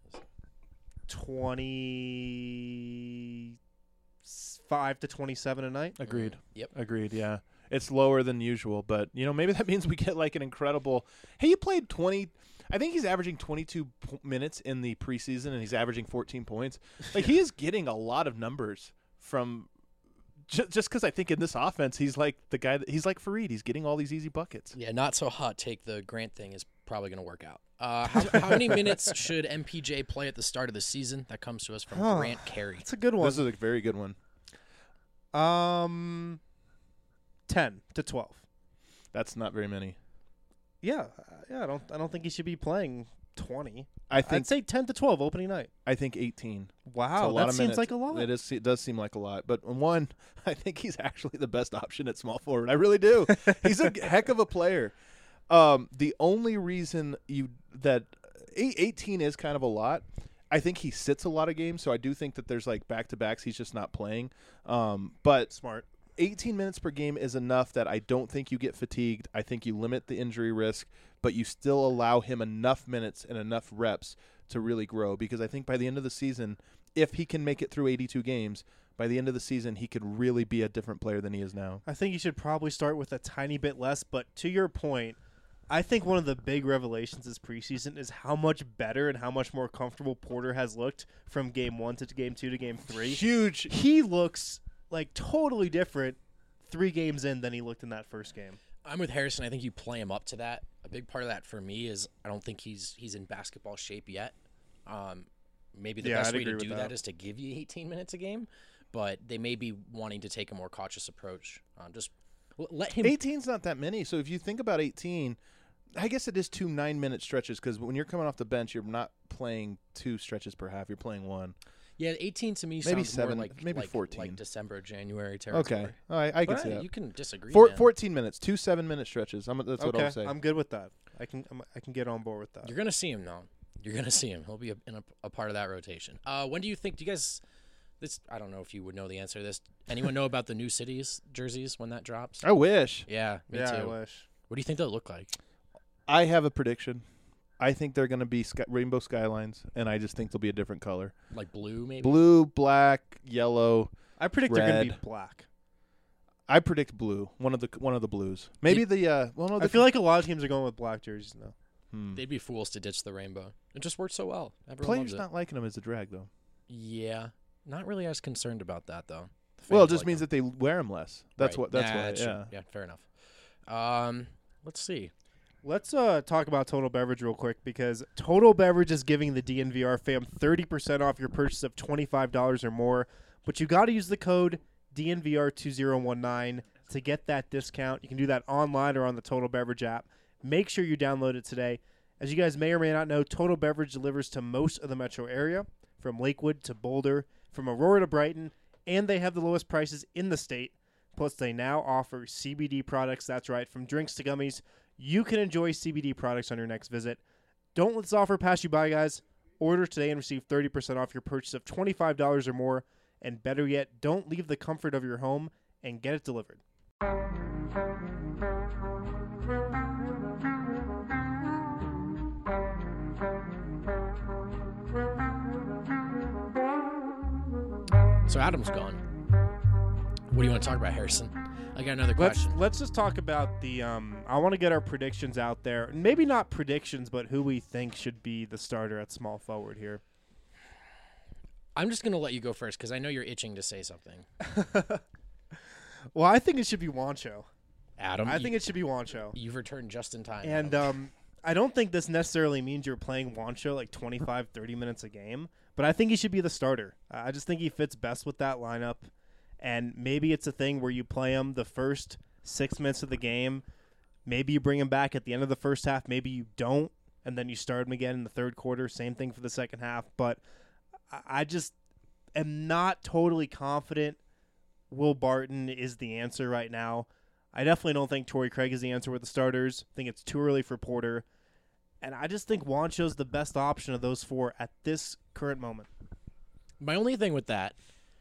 A: 25 to 27 a night.
B: Agreed.
C: Yep.
B: Agreed, yeah. It's lower than usual, but, maybe that means we get like an incredible – hey, you played 20 – I think he's averaging 22 minutes in the preseason, and he's averaging 14 points. Like, he is getting a lot of numbers from just because I think in this offense he's like the guy – he's like Fareed. He's getting all these easy buckets.
C: Yeah, not so hot take. The Grant thing is probably going to work out. How many minutes should MPJ play at the start of the season? That comes to us from Grant Carey.
A: It's a good one.
B: This is a very good one.
A: 10 to 12.
B: That's not very many.
A: Yeah. I don't think he should be playing 20.
B: I think
A: I'd say 10 to 12 opening night.
B: 18.
A: Wow,
B: It's a lot
A: that
B: of
A: seems
B: minutes.
A: like a lot.
B: It does seem like a lot. But one, I think he's actually the best option at small forward. I really do. He's a heck of a player. The only reason 18 is kind of a lot. I think he sits a lot of games, so I do think that there's like back-to-backs he's just not playing. But
A: Smart.
B: 18 minutes per game is enough that I don't think you get fatigued. I think you limit the injury risk, but you still allow him enough minutes and enough reps to really grow, because I think by the end of the season, if he can make it through 82 games, by the end of the season, he could really be a different player than he is now.
A: I think you should probably start with a tiny bit less, but to your point, I think one of the big revelations this preseason is how much better and how much more comfortable Porter has looked from game 1 to game 2 to game 3.
B: Huge.
A: He looks like totally different 3 games in than he looked in that first game.
C: I'm with Harrison. I think you play him up to that. A big part of that for me is I don't think he's in basketball shape yet. Maybe the best
A: I'd
C: way to
A: agree
C: do
A: with
C: that
A: that
C: is to give you 18 minutes a game, but they may be wanting to take a more cautious approach. Just let him.
B: 18's not that many, so if you think about 18, I guess it is 2 9-minute stretches, because when you're coming off the bench, you're not playing 2 stretches per half. You're playing 1.
C: Yeah, 18 to me
B: Maybe
C: sounds
B: 7,
C: more like
B: maybe
C: like,
B: 14.
C: like December, January territory.
B: Okay. All right, I can
C: But
B: see that.
C: you can disagree. man.
B: 14 minutes, 2 7-minute stretches. That's what
A: okay,
B: I'll say.
A: I'm good with that. I can get on board with that.
C: You're gonna see him now. You're gonna see him. He'll be a part of that rotation. When do you think? Do you guys? This I don't know if you would know the answer to this. Anyone know about the new cities jerseys when that drops?
B: I wish.
C: Yeah, me
A: yeah,
C: too.
A: I wish.
C: What do you think they'll look like?
B: I have a prediction. I think they're going to be rainbow skylines, and I just think they'll be a different color.
C: Like blue, maybe.
B: Blue, black, yellow.
A: I predict they're going to be
B: Red.
A: black.
B: I predict blue. One of the blues. Maybe the well, no,
A: I feel like a lot of teams are going with black jerseys now.
C: They'd be fools to ditch the rainbow. It just worked so well. Everyone
B: players
C: loves it.
B: not liking them as a drag though.
C: Yeah, not really as concerned about that though.
B: Well, it just means that they wear them less. That's
C: Right.
B: what. That's
C: Nah,
B: why.
C: that's true.
B: Yeah.
C: Yeah, fair enough. Let's see.
A: Let's talk about Total Beverage real quick, because Total Beverage is giving the DNVR fam 30% off your purchase of $25 or more, but you got to use the code DNVR2019 to get that discount. You can do that online or on the Total Beverage app. Make sure you download it today. As you guys may or may not know, Total Beverage delivers to most of the metro area, from Lakewood to Boulder, from Aurora to Brighton, and they have the lowest prices in the state. Plus, they now offer CBD products. That's right, from drinks to gummies. You can enjoy CBD products on your next visit. Don't let this offer pass you by, guys. Order today and receive 30% off your purchase of $25 or more. And better yet, don't leave the comfort of your home and get it delivered.
C: So Adam's gone. What do you want to talk about, Harrison? I got another question.
A: Let's just talk about the I want to get our predictions out there. Maybe not predictions, but who we think should be the starter at small forward here.
C: I'm just going to let you go first because I know you're itching to say something.
A: Well, I think it should be Juancho.
C: Adam,
A: I think it should be Juancho.
C: you've returned just in time.
A: And
C: Adam.
A: I don't think this necessarily means you're playing Juancho like 25, 30 minutes a game, but I think he should be the starter. I just think he fits best with that lineup, and maybe it's a thing where you play him the first 6 minutes of the game. Maybe you bring him back at the end of the first half. Maybe you don't, and then you start him again in the third quarter. Same thing for the second half, but I just am not totally confident Will Barton is the answer right now. I definitely don't think Torrey Craig is the answer with the starters. I think it's too early for Porter. And I just think Juancho's the best option of those four at this current moment.
C: My only thing with that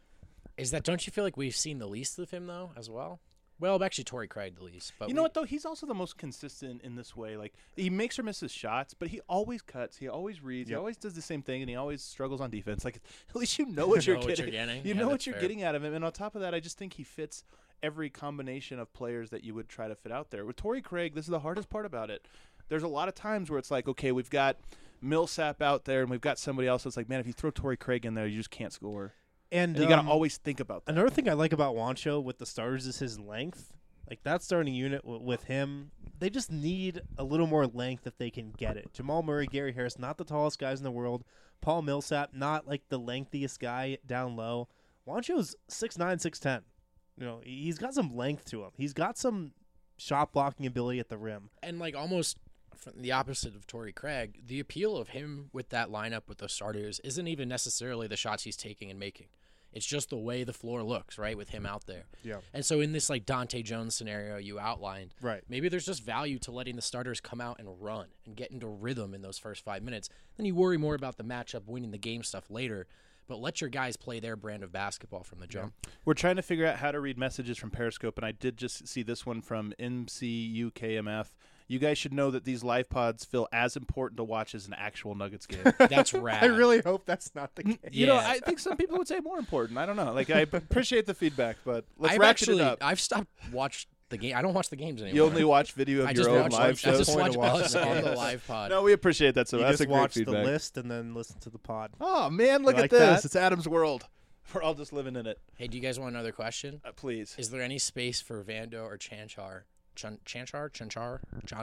C: is that don't you feel like we've seen the least of him, though, as well? Well, actually, Torrey Craig the least. But
B: You know what, though? He's also the most consistent in this way. Like, he makes or misses shots, but he always cuts. He always reads. He always does the same thing, and he always struggles on defense. Like, at least you know what you're getting. You know what you're getting out of him. And on top of that, I just think he fits every combination of players that you would try to fit out there. With Torrey Craig, this is the hardest part about it. There's a lot of times where it's like, okay, we've got Millsap out there, and we've got somebody else that's like, man, if you throw Torrey Craig in there, you just can't score. And you got to always think about that.
A: Another thing I like about Juancho with the starters is his length. Like, that starting unit with him, they just need a little more length if they can get it. Jamal Murray, Gary Harris, not the tallest guys in the world. Paul Millsap, not like the lengthiest guy down low. Juancho's 6'9", 6'10". You know, he's got some length to him. He's got some shot blocking ability at the rim.
C: And like almost from the opposite of Torrey Craig, the appeal of him with that lineup with the starters isn't even necessarily the shots he's taking and making. It's just the way the floor looks, right, with him out there.
A: Yeah.
C: And so in this like Dante Jones scenario you outlined,
A: right,
C: maybe there's just value to letting the starters come out and run and get into rhythm in those first 5 minutes. Then you worry more about the matchup, winning the game stuff later. But let your guys play their brand of basketball from the jump.
B: We're trying to figure out how to read messages from Periscope, and I did just see this one from MCUKMF. You guys should know that these live pods feel as important to watch as an actual Nuggets game.
C: That's rad.
A: I really hope that's not the case.
B: You know, I think some people would say more important. I don't know. Like, I appreciate the feedback, but let's ratchet it up.
C: I've stopped watching the game. I don't watch the games anymore.
B: You only watch video of your own live shows?
C: I just watch us
A: the
C: on the live pod.
B: No, we appreciate that. So that's a great feedback.
A: Watch the list and then listen to the pod.
B: Oh, man, look at this. That? It's Adam's world. We're all just living in it.
C: Hey, do you guys want another question?
B: Please.
C: Is there any space for Vando or Chanchar? Chanchar?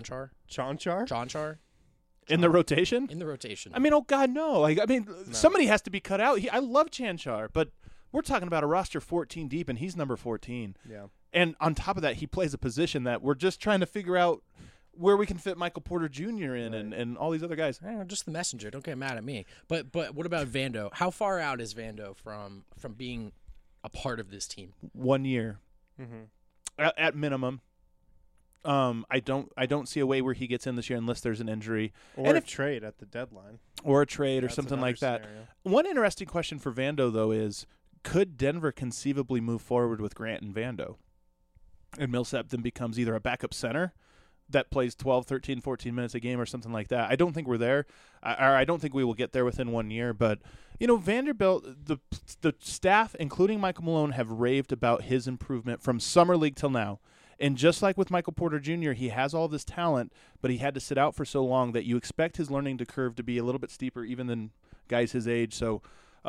B: In the rotation?
C: In the rotation.
B: I mean, oh, God, no. Like, I mean, somebody has to be cut out. I love Chanchar, but we're talking about a roster 14 deep, and he's number 14.
A: Yeah.
B: And on top of that, he plays a position that we're just trying to figure out where we can fit Michael Porter Jr. in and all these other guys.
C: Just the messenger. Don't get mad at me. But what about Vando? How far out is Vando from being a part of this team?
B: 1 year.
A: Mm-hmm.
B: At minimum. I don't see a way where he gets in this year unless there's an injury.
A: Or a trade at the deadline.
B: Or a trade or something like that.
A: Scenario.
B: One interesting question for Vando, though, is could Denver conceivably move forward with Grant and Vando? And Millsap then becomes either a backup center that plays 12, 13, 14 minutes a game or something like that. I don't think we're there. I don't think we will get there within 1 year. But, you know, Vanderbilt, the staff, including Michael Malone, have raved about his improvement from summer league till now. And just like with Michael Porter Jr., he has all this talent, but he had to sit out for so long that you expect his learning curve to be a little bit steeper even than guys his age. So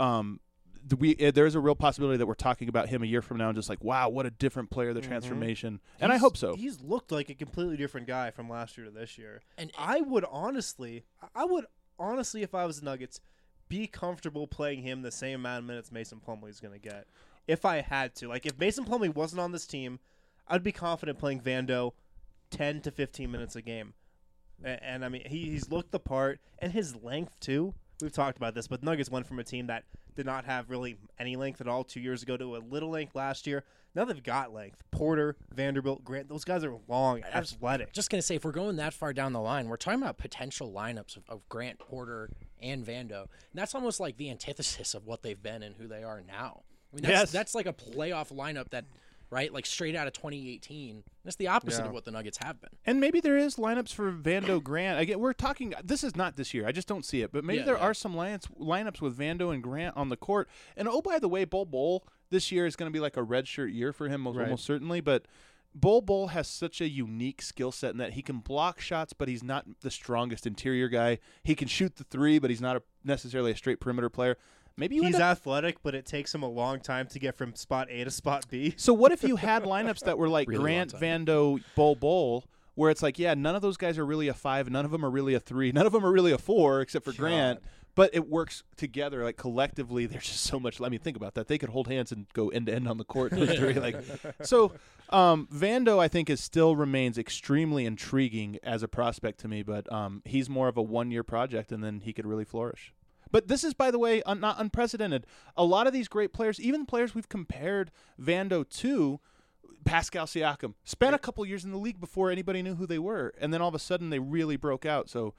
B: there's a real possibility that we're talking about him a year from now and just like, wow, what a different player, the transformation. And I hope so.
A: He's looked like a completely different guy from last year to this year.
C: And
A: I would honestly, if I was the Nuggets, be comfortable playing him the same amount of minutes Mason Plumlee is going to get. If I had to. Like, if Mason Plumlee wasn't on this team, I'd be confident playing Vando 10 to 15 minutes a game. And I mean, he's looked the part, and his length, too. We've talked about this, but Nuggets went from a team that did not have really any length at all 2 years ago to a little length last year. Now they've got length. Porter, Vanderbilt, Grant, those guys are long, athletic.
C: Just going to say, if we're going that far down the line, we're talking about potential lineups of Grant, Porter, and Vando. And that's almost like the antithesis of what they've been and who they are now. I mean, that's like a playoff lineup that – right? Like straight out of 2018. That's the opposite of what the Nuggets have been.
B: And maybe there is lineups for Vando Grant. Again, we're talking – this is not this year. I just don't see it. But maybe there are some lineups with Vando and Grant on the court. And, oh, by the way, Bol this year is going to be like a redshirt year for him almost certainly. But Bol has such a unique skill set in that he can block shots, but he's not the strongest interior guy. He can shoot the three, but he's not necessarily a straight perimeter player. Maybe
A: he's athletic, but it takes him a long time to get from spot A to spot B.
B: So what if you had lineups that were like really Grant, Vando, Bol, where it's like, yeah, none of those guys are really a 5, none of them are really a 3, none of them are really a 4 except for Grant. But it works together, like collectively. There's just so much. I mean, think about that. They could hold hands and go end to end on the court. Those three, like, so. Vando, I think, still remains extremely intriguing as a prospect to me, but he's more of a 1-year project, and then he could really flourish. But this is, by the way, not unprecedented. A lot of these great players, even players we've compared Vando to, Pascal Siakam, spent a couple years in the league before anybody knew who they were, and then all of a sudden they really broke out. So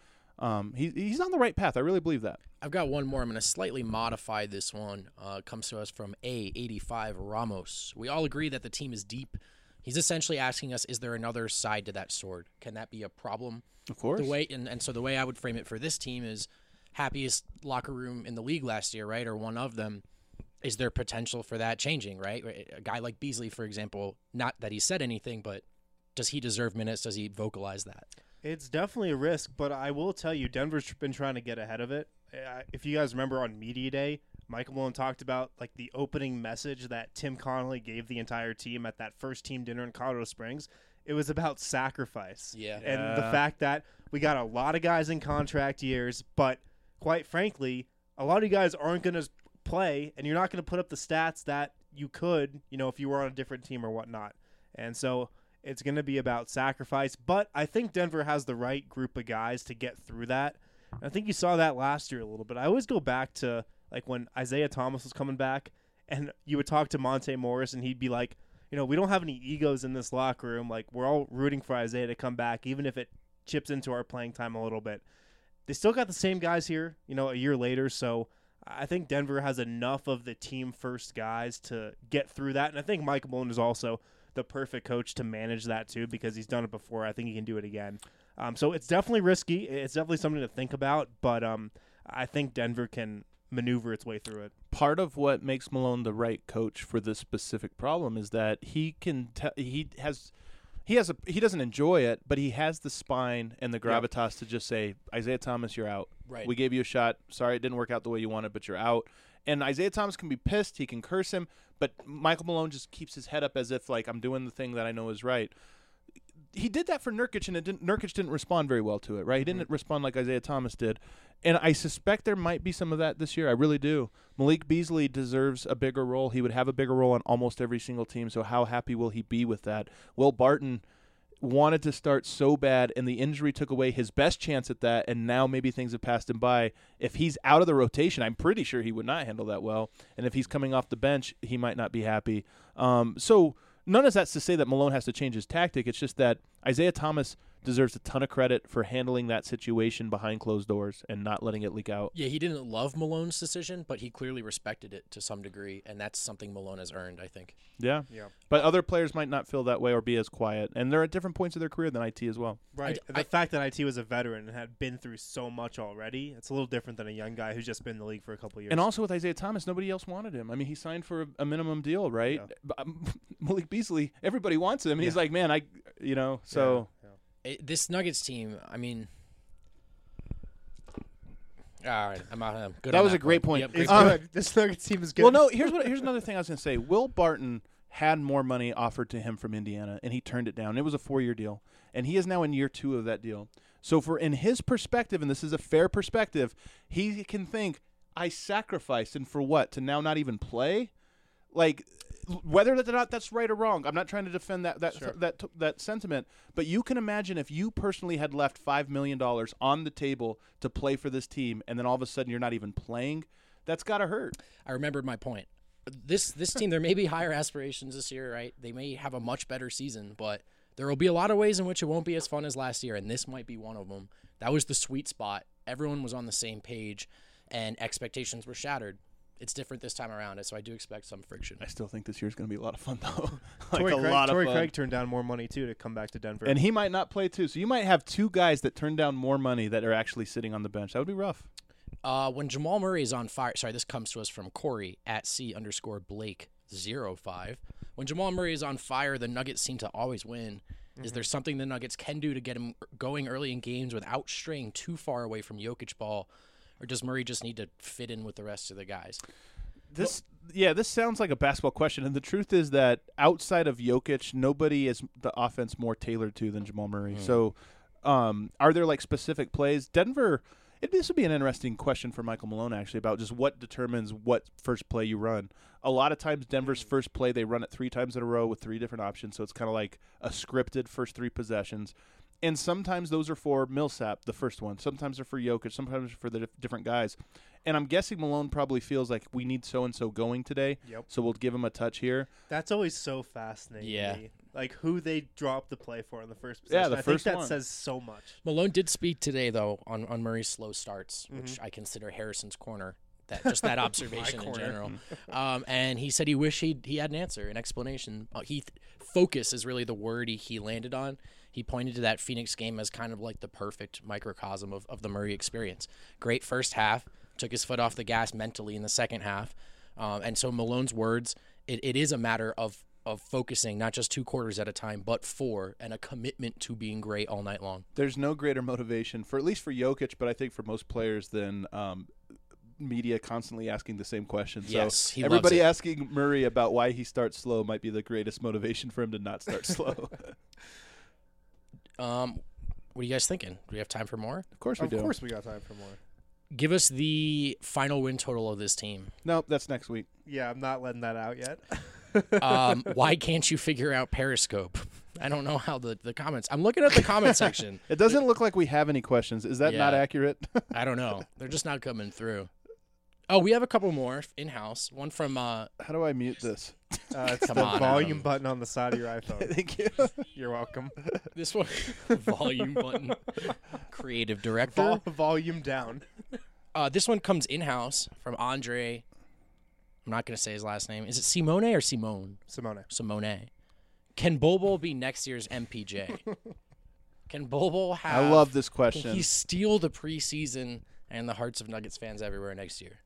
B: he's on the right path. I really believe that.
C: I've got one more. I'm going to slightly modify this one. It comes to us from A85 Ramos. We all agree that the team is deep. He's essentially asking us, is there another side to that sword? Can that be a problem?
B: Of course.
C: So the way I would frame it for this team is happiest locker room in the league last year, right, or one of them. Is there potential for that changing, right? A guy like Beasley, for example, not that he said anything, but does he deserve minutes? Does he vocalize that?
A: It's definitely a risk, but I will tell you, Denver's been trying to get ahead of it. If you guys remember on Media Day, Michael Malone talked about like the opening message that Tim Connolly gave the entire team at that first team dinner in Colorado Springs. It was about sacrifice.
C: Yeah.
A: And the fact that we got a lot of guys in contract years, but quite frankly, a lot of you guys aren't going to play, and you're not going to put up the stats that you could, if you were on a different team or whatnot. And so it's going to be about sacrifice, but I think Denver has the right group of guys to get through that. And I think you saw that last year a little bit. I always go back to like when Isaiah Thomas was coming back, and you would talk to Monte Morris, and he'd be like, we don't have any egos in this locker room. Like, we're all rooting for Isaiah to come back, even if it chips into our playing time a little bit. They still got the same guys here, a year later, so I think Denver has enough of the team-first guys to get through that, and I think Michael Malone is also the perfect coach to manage that too, because he's done it before. I think he can do it again. So it's definitely risky. It's definitely something to think about, but I think Denver can maneuver its way through it.
B: Part of what makes Malone the right coach for this specific problem is that he doesn't enjoy it, but he has the spine and the gravitas to just say, Isaiah Thomas, you're out.
C: Right.
B: We gave you a shot. Sorry it didn't work out the way you wanted, but you're out. And Isaiah Thomas can be pissed. He can curse him, but Michael Malone just keeps his head up as if, like, I'm doing the thing that I know is right. He did that for Nurkic, and Nurkic didn't respond very well to it, right? He didn't respond like Isaiah Thomas did. And I suspect there might be some of that this year. I really do. Malik Beasley deserves a bigger role. He would have a bigger role on almost every single team, so how happy will he be with that? Will Barton wanted to start so bad, and the injury took away his best chance at that, and now maybe things have passed him by. If he's out of the rotation, I'm pretty sure he would not handle that well. And if he's coming off the bench, he might not be happy. So none of that's to say that Malone has to change his tactic. It's just that Isaiah Thomas deserves a ton of credit for handling that situation behind closed doors and not letting it leak out.
C: Yeah, he didn't love Malone's decision, but he clearly respected it to some degree, and that's something Malone has earned, I think.
B: Yeah. But other players might not feel that way or be as quiet, and they're at different points of their career than IT as well.
A: Right. The fact that IT was a veteran and had been through so much already, it's a little different than a young guy who's just been in the league for a couple of years.
B: And also with Isaiah Thomas, nobody else wanted him. I mean, he signed for a minimum deal, right? Yeah. Malik Beasley, everybody wants him, and he's like, man, so...
C: This Nuggets team, I mean, all right, I'm good.
B: That was a great point.
C: Yep,
A: it's good. This Nuggets team is good.
B: Well, no, here's another thing I was going to say. Will Barton had more money offered to him from Indiana, and he turned it down. It was a 4-year deal, and he is now in year 2 of that deal. So in his perspective, and this is a fair perspective, he can think, I sacrificed, and for what? To now not even play? Like, whether or not that's right or wrong, I'm not trying to defend that sentiment, but you can imagine if you personally had left $5 million on the table to play for this team, and then all of a sudden you're not even playing, that's got to hurt.
C: I remembered my point. This team, there may be higher aspirations this year, right? They may have a much better season, but there will be a lot of ways in which it won't be as fun as last year, and this might be one of them. That was the sweet spot. Everyone was on the same page, and expectations were shattered. It's different this time around, so I do expect some friction.
B: I still think this year's going to be a lot of fun, though.
A: Torrey Craig turned down more money, too, to come back to Denver.
B: And he might not play, too. So you might have 2 guys that turn down more money that are actually sitting on the bench. That would be rough.
C: When Jamal Murray is on fire – sorry, this comes to us from Corey at C_Blake05. When Jamal Murray is on fire, the Nuggets seem to always win. Mm-hmm. Is there something the Nuggets can do to get him going early in games without straying too far away from Jokic ball? Or does Murray just need to fit in with the rest of the guys?
B: Yeah, this sounds like a basketball question, and the truth is that outside of Jokic, nobody is the offense more tailored to than Jamal Murray. So, are there like specific plays? Denver. This would be an interesting question for Michael Malone actually about just what determines what first play you run. A lot of times, Denver's first play they run it 3 times in a row with 3 different options, so it's kind of like a scripted first 3 possessions. And sometimes those are for Millsap, the first one. Sometimes they're for Jokic. Sometimes for the different guys. And I'm guessing Malone probably feels like we need so-and-so going today, so we'll give him a touch here.
A: That's always so fascinating
C: Yeah.
A: to me. Like, who they drop the play for in the first possession.
B: Yeah, the
A: I
B: first
A: think that
B: one.
A: says so much.
C: Malone did speak today, though, on Murray's slow starts, which I consider Harrison's corner. That observation in
A: corner.
C: general. And he said he wished he had an answer, an explanation. Focus is really the word he landed on. He pointed to that Phoenix game as kind of like the perfect microcosm of the Murray experience. Great first half, took his foot off the gas mentally in the second half. And so Malone's words, it is a matter of focusing not just 2 quarters at a time, but 4, and a commitment to being great all night long.
B: There's no greater motivation, for at least for Jokic, but I think for most players, than media constantly asking the same question.
C: Yes,
B: so
C: he loves
B: everybody
C: it.
B: asking Murray about why he starts slow might be the greatest motivation for him to not start slow.
C: What are you guys thinking? Do we have time for more?
B: Of course we do.
A: Of course we got time for more.
C: Give us the final win total of this team.
B: Nope, that's next week.
A: Yeah, I'm not letting that out yet.
C: Why can't you figure out Periscope? I don't know how the comments. I'm looking at the comment section.
B: It doesn't look like we have any questions. Is that not
C: Yeah.
B: accurate?
C: I don't know. They're just not coming through. Oh, we have a couple more in-house. One from
B: How do I mute this?
A: It's
C: Come
A: the
C: on,
A: volume
C: Adam.
A: button on the side of your iPhone.
B: Thank you.
A: You're welcome.
C: this one. Volume button. Creative director.
A: Volume down.
C: This one comes in-house from Andre. I'm not going to say his last name. Is it Simone or Simone?
A: Simone.
C: Simone. Can Bol Bol be next year's MPJ? Can Bol Bol have...
B: I love this
C: Can
B: question.
C: he steal the preseason and the hearts of Nuggets fans everywhere next year?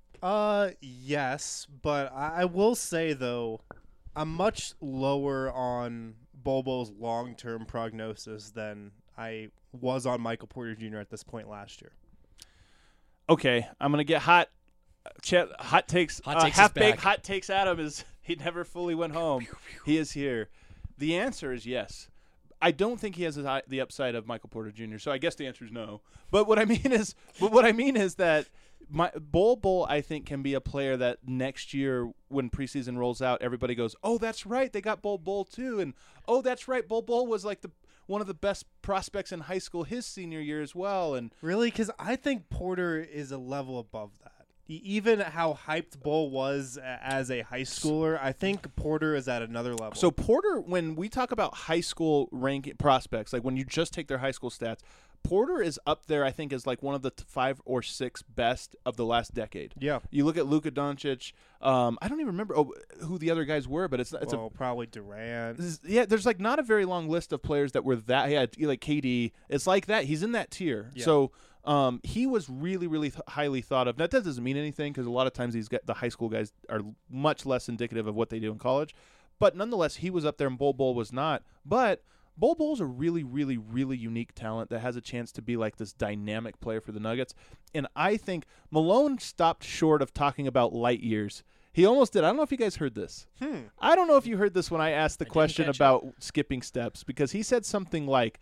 A: Yes, but I will say, though, I'm much lower on Bobo's long-term prognosis than I was on Michael Porter Jr. at this point last year.
B: Okay, I'm going to get hot. Hot takes.
C: Hot takes is
B: half-baked
C: back.
B: hot takes Adam is he never fully went home. He is here. The answer is yes. I don't think he has the upside of Michael Porter Jr., so I guess the answer is no. But what I mean is that Bol, I think, can be a player that next year when preseason rolls out, everybody goes, oh, that's right, they got Bol too. And, oh, that's right, Bol was like one of the best prospects in high school his senior year as well. And
A: Really? Because I think Porter is a level above that. Even how hyped Bol was as a high schooler, I think Porter is at another level.
B: So Porter, when we talk about high school ranking prospects, like when you just take their high school stats, Porter is up there, I think, as like one of the 5 or 6 best of the last decade.
A: Yeah.
B: You look at Luka Doncic. I don't even remember who the other guys were, but it's
A: probably Durant.
B: yeah. There's like not a very long list of players that were that. Yeah, like KD. It's like that. He's in that tier.
A: Yeah.
B: So he was really, really highly thought of. Now, that doesn't mean anything because a lot of times the high school guys are much less indicative of what they do in college. But nonetheless, he was up there and Bol was not. But Bol's a really, really, really unique talent that has a chance to be like this dynamic player for the Nuggets. And I think Malone stopped short of talking about light years. He almost did. I don't know if you guys heard this. I don't know if you heard this when I asked the question
C: catch
B: about skipping steps, because he said something like,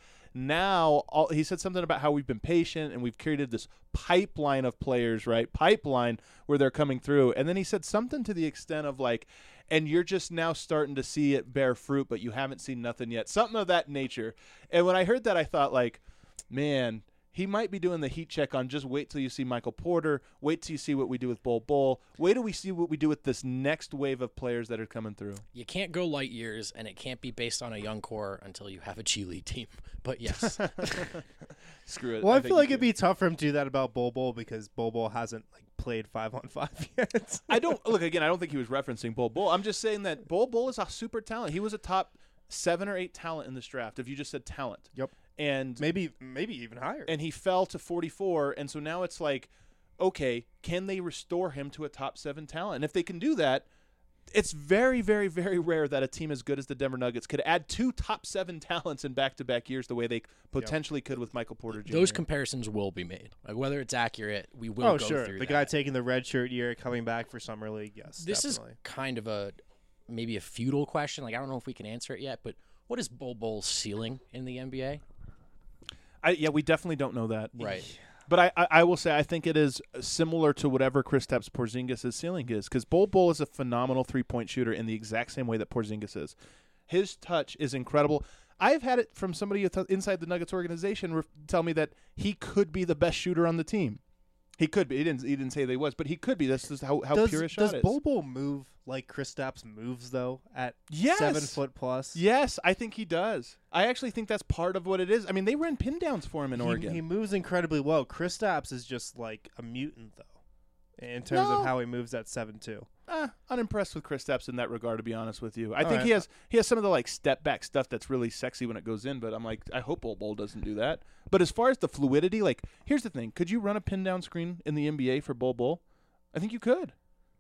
B: he said something about how we've been patient and we've created this pipeline of players, right? Pipeline where they're coming through. And then he said something to the extent of like, and you're just now starting to see it bear fruit, but you haven't seen nothing yet. Something of that nature. And when I heard that, I thought like, man, he might be doing the heat check on just wait till you see Michael Porter. Wait till you see what we do with Bol. Wait till we see what we do with this next wave of players that are coming through.
C: You can't go light years, and it can't be based on a young core until you have a G League team. But yes,
B: Screw it.
A: Well, I
B: think
A: feel like
B: you
A: it'd be tough for him to do that about Bol because Bol hasn't like played 5-on-5 yet.
B: I don't think he was referencing Bol. I'm just saying that Bol is a super talent. He was a top 7 or 8 talent in this draft. If you just said talent.
A: Yep.
B: And
A: maybe even higher.
B: and he fell to 44, and so now it's like, okay, can they restore him to a top 7 talent? And if they can do that, it's very, very, very rare that a team as good as the Denver Nuggets could add 2 top 7 talents in back-to-back years the way they potentially could with Michael Porter Jr.
C: Those comparisons will be made. Like, whether it's accurate, we will
A: Oh,
C: go
A: sure.
C: through
A: The
C: that.
A: guy taking the red shirt year, coming back for Summer League, yes,
C: This
A: definitely.
C: is kind of maybe a futile question. Like, I don't know if we can answer it yet, but what is Bol Bol's ceiling in the NBA?
B: Yeah, we definitely don't know that.
C: Right.
B: But I will say I think it is similar to whatever Kristaps Porzingis' ceiling is, because Bol is a phenomenal three-point shooter in the exact same way that Porzingis is. His touch is incredible. I've had it from somebody inside the Nuggets organization tell me that he could be the best shooter on the team. He could be. He didn't say they was, but he could be. That's just how pure his shot is.
A: Does Bol move like Kristaps moves though at
B: Yes.
A: 7 foot plus?
B: Yes, I think he does. I actually think that's part of what it is. I mean, they ran pin downs for him in
A: He
B: Oregon.
A: moves incredibly well. Kristaps is just like a mutant though, in terms
B: No.
A: of how he moves at 7'2".
B: Unimpressed with Kristaps in that regard, to be honest with you. I
A: All
B: think
A: right.
B: he has some of the like step back stuff that's really sexy when it goes in, but I'm like, I hope Bol doesn't do that. But as far as the fluidity, like, here's the thing: could you run a pin down screen in the NBA for Bol? I think you could.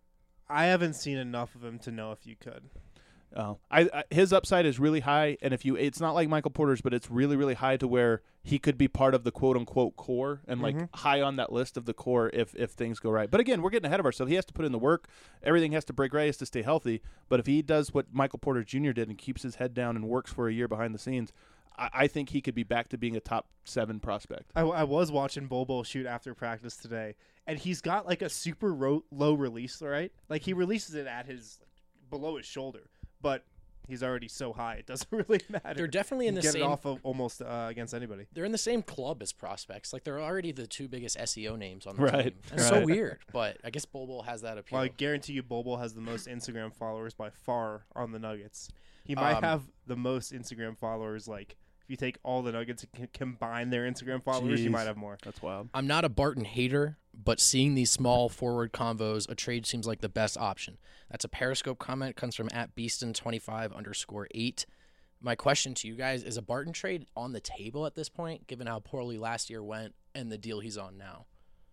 A: I haven't seen enough of him to know if you could.
B: Oh, his upside is really high, and it's not like Michael Porter's, but it's really, really high to where he could be part of the quote unquote core and like high on that list of the core if things go right. But again, we're getting ahead of ourselves. He has to put in the work. Everything has to break right. He has to stay healthy. But if he does what Michael Porter Jr. did and keeps his head down and works for a year behind the scenes, I think he could be back to being a top 7 prospect.
A: I was watching Bol shoot after practice today, and he's got like a super low release, right? Like he releases it at below his shoulder, but he's already so high it doesn't really matter.
C: They're definitely in
A: You
C: the
A: get
C: same.
A: it off of almost against anybody.
C: They're in the same club as prospects. Like, they're already the 2 biggest SEO names on the
B: Right,
C: team. It's so
B: right.
C: weird, but I guess Bol has that appeal.
A: Well, I guarantee you, Bol has the most Instagram followers by far on the Nuggets. He might have the most Instagram followers. Like if you take all the Nuggets and combine their Instagram followers, you
B: Jeez.
A: might have more.
B: That's wild.
C: I'm not a Barton hater, but seeing these small forward convos, a trade seems like the best option. That's a Periscope comment. Comes from @Beaston25_8. My question to you guys, is a Barton trade on the table at this point, given how poorly last year went and the deal he's on now?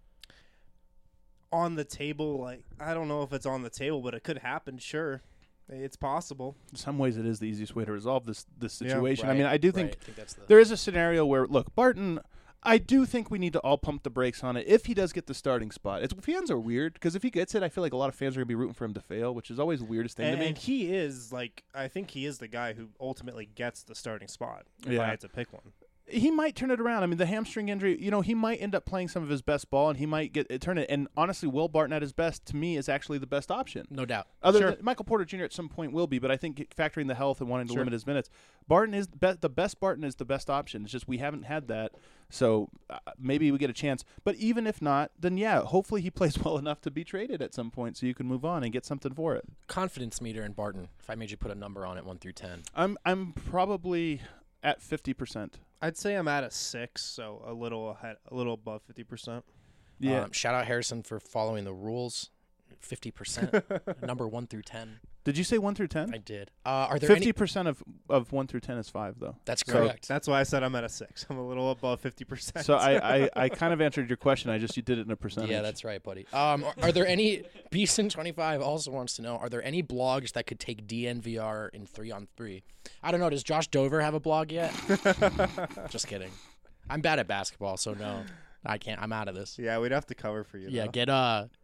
A: On the table, like I don't know if it's on the table, but it could happen. Sure, it's possible.
B: In some ways, it is the easiest way to resolve this situation. I mean,
C: Right,
B: I do
C: right.
B: think
C: I think that's the
B: there is a scenario where, look, Barton, I do think we need to all pump the brakes on it if he does get the starting spot. Fans are weird because if he gets it, I feel like a lot of fans are going to be rooting for him to fail, which is always the weirdest thing to me.
A: And he is like, I think he is the guy who ultimately gets the starting spot. If
B: Yeah.
A: I had to pick one.
B: He might turn it around. I mean, the hamstring injury, he might end up playing some of his best ball, and he might turn it. And honestly, Will Barton at his best, to me, is actually the best option.
C: no doubt.
B: Other than Michael Porter Jr. at some point will be, but I think factoring the health and wanting to limit his minutes, Barton is the best. Barton is the best option. It's just we haven't had that, so maybe we get a chance. But even if not, then yeah, hopefully he plays well enough to be traded at some point, so you can move on and get something for it.
C: Confidence meter in Barton, if I made you put a number on it, 1 through 10.
B: I'm probably at 50%.
A: I'd say I'm at a 6, so a little above 50%.
B: Yeah.
C: Shout out Harrison for following the rules. 50%. Number 1 through 10.
B: Did you say 1 through 10?
C: I did. Are there any?
B: 50% of 1 through 10 is 5, though.
C: That's
A: So
C: correct.
A: that's why I said I'm at a 6. I'm a little above 50%.
B: So I kind of answered your question. You did it in a percentage.
C: Yeah, that's right, buddy. Are there any? Beaston25 also wants to know: are there any blogs that could take DNVR in 3-on-3? I don't know. Does Josh Dover have a blog yet? Just kidding. I'm bad at basketball, so no, I can't. I'm out of this.
A: Yeah, we'd have to cover for you.
C: Yeah,
A: though.
C: get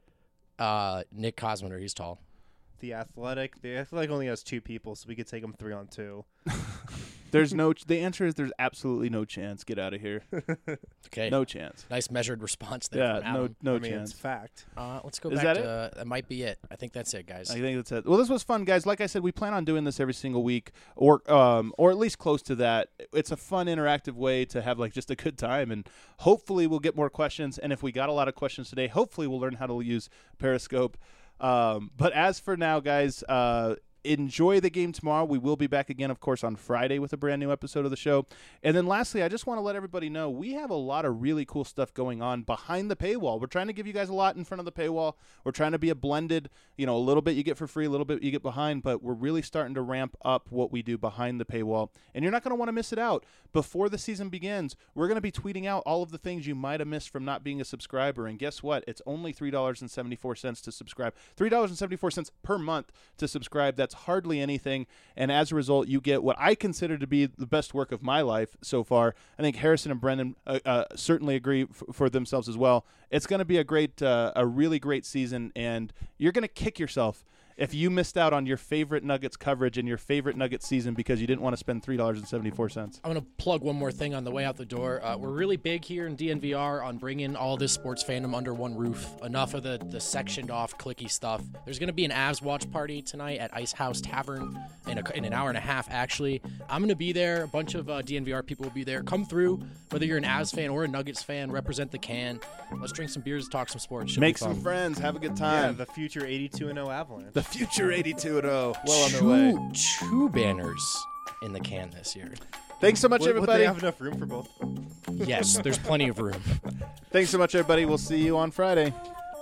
C: Nick Cosmonder. He's tall.
A: The Athletic only has 2 people, so we could take them 3-on-2.
B: The answer is there's absolutely no chance. Get out of here.
C: Okay.
B: No chance.
C: Nice measured response there. From
B: Yeah,
C: Adam.
B: no
A: I mean,
B: chance.
A: it's fact.
C: Let's go
B: Is
C: back
B: that
C: to that. Might be it. I think that's it, guys.
B: I think that's it. Well, this was fun, guys. Like I said, we plan on doing this every single week, or at least close to that. It's a fun, interactive way to have like just a good time, and hopefully we'll get more questions. And if we got a lot of questions today, hopefully we'll learn how to use Periscope. But as for now, guys, enjoy the game tomorrow. We will be back again, of course, on Friday with a brand new episode of the show. And then lastly, I just want to let everybody know we have a lot of really cool stuff going on behind the paywall. We're trying to give you guys a lot in front of the paywall. We're trying to be a blended, a little bit you get for free, a little bit you get behind, but we're really starting to ramp up what we do behind the paywall. And you're not going to want to miss it out. Before the season begins, we're going to be tweeting out all of the things you might have missed from not being a subscriber. And guess what? It's only $3.74 to subscribe. $3.74 per month to subscribe. That's hardly anything. And as a result, you get what I consider to be the best work of my life so far. I think Harrison and Brendan certainly agree for themselves as well. It's going to be a really great season, and you're going to kick yourself if you missed out on your favorite Nuggets coverage and your favorite Nuggets season because you didn't want to spend $3.74.
C: I'm going to plug one more thing on the way out the door. We're really big here in DNVR on bringing all this sports fandom under one roof. Enough of the sectioned off clicky stuff. There's going to be an Avs watch party tonight at Ice House Tavern in an hour and a half, actually. I'm going to be there. A bunch of DNVR people will be there. Come through, whether you're an Avs fan or a Nuggets fan, represent the can. Let's drink some beers, talk some sports. Should
B: Make
C: be fun.
B: some friends. Have a good
A: Yeah,
B: time.
A: the future 82-0 Avalanche.
B: The future 82-0. Well on their way.
C: Two banners in the can this year.
B: Thanks so much,
A: Would
B: everybody.
A: they have enough room for both?
C: Yes, there's plenty of room.
B: Thanks so much, everybody. We'll see you on Friday.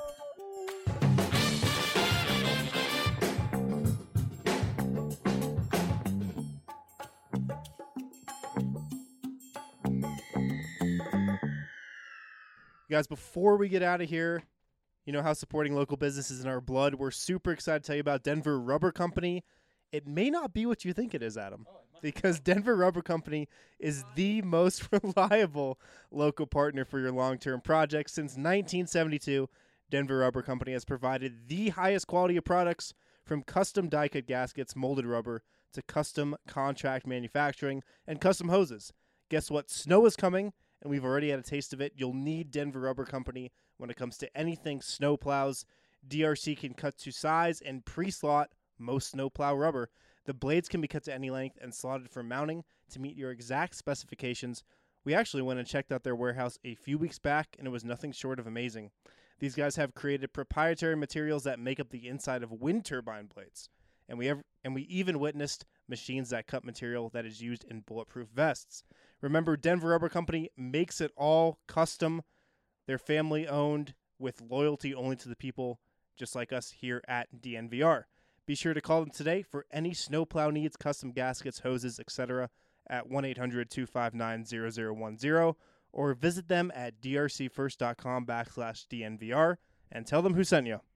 A: Guys, before we get out of here, you know how supporting local businesses in our blood. We're super excited to tell you about Denver Rubber Company. It may not be what you think it is, Adam, because Denver Rubber Company is the most reliable local partner for your long-term projects. Since 1972, Denver Rubber Company has provided the highest quality of products, from custom die-cut gaskets, molded rubber, to custom contract manufacturing and custom hoses. Guess what? Snow is coming, and we've already had a taste of it. You'll need Denver Rubber Company when it comes to anything snow plows. DRC can cut to size and pre-slot most snow plow rubber. The blades can be cut to any length and slotted for mounting to meet your exact specifications. We actually went and checked out their warehouse a few weeks back, and it was nothing short of amazing. These guys have created proprietary materials that make up the inside of wind turbine blades. And we even witnessed machines that cut material that is used in bulletproof vests. Remember, Denver Rubber Company makes it all custom. They're family owned with loyalty only to the people, just like us here at DNVR. Be sure to call them today for any snowplow needs, custom gaskets, hoses, etc. at 1-800-259-0010 or visit them at drcfirst.com/DNVR and tell them who sent you.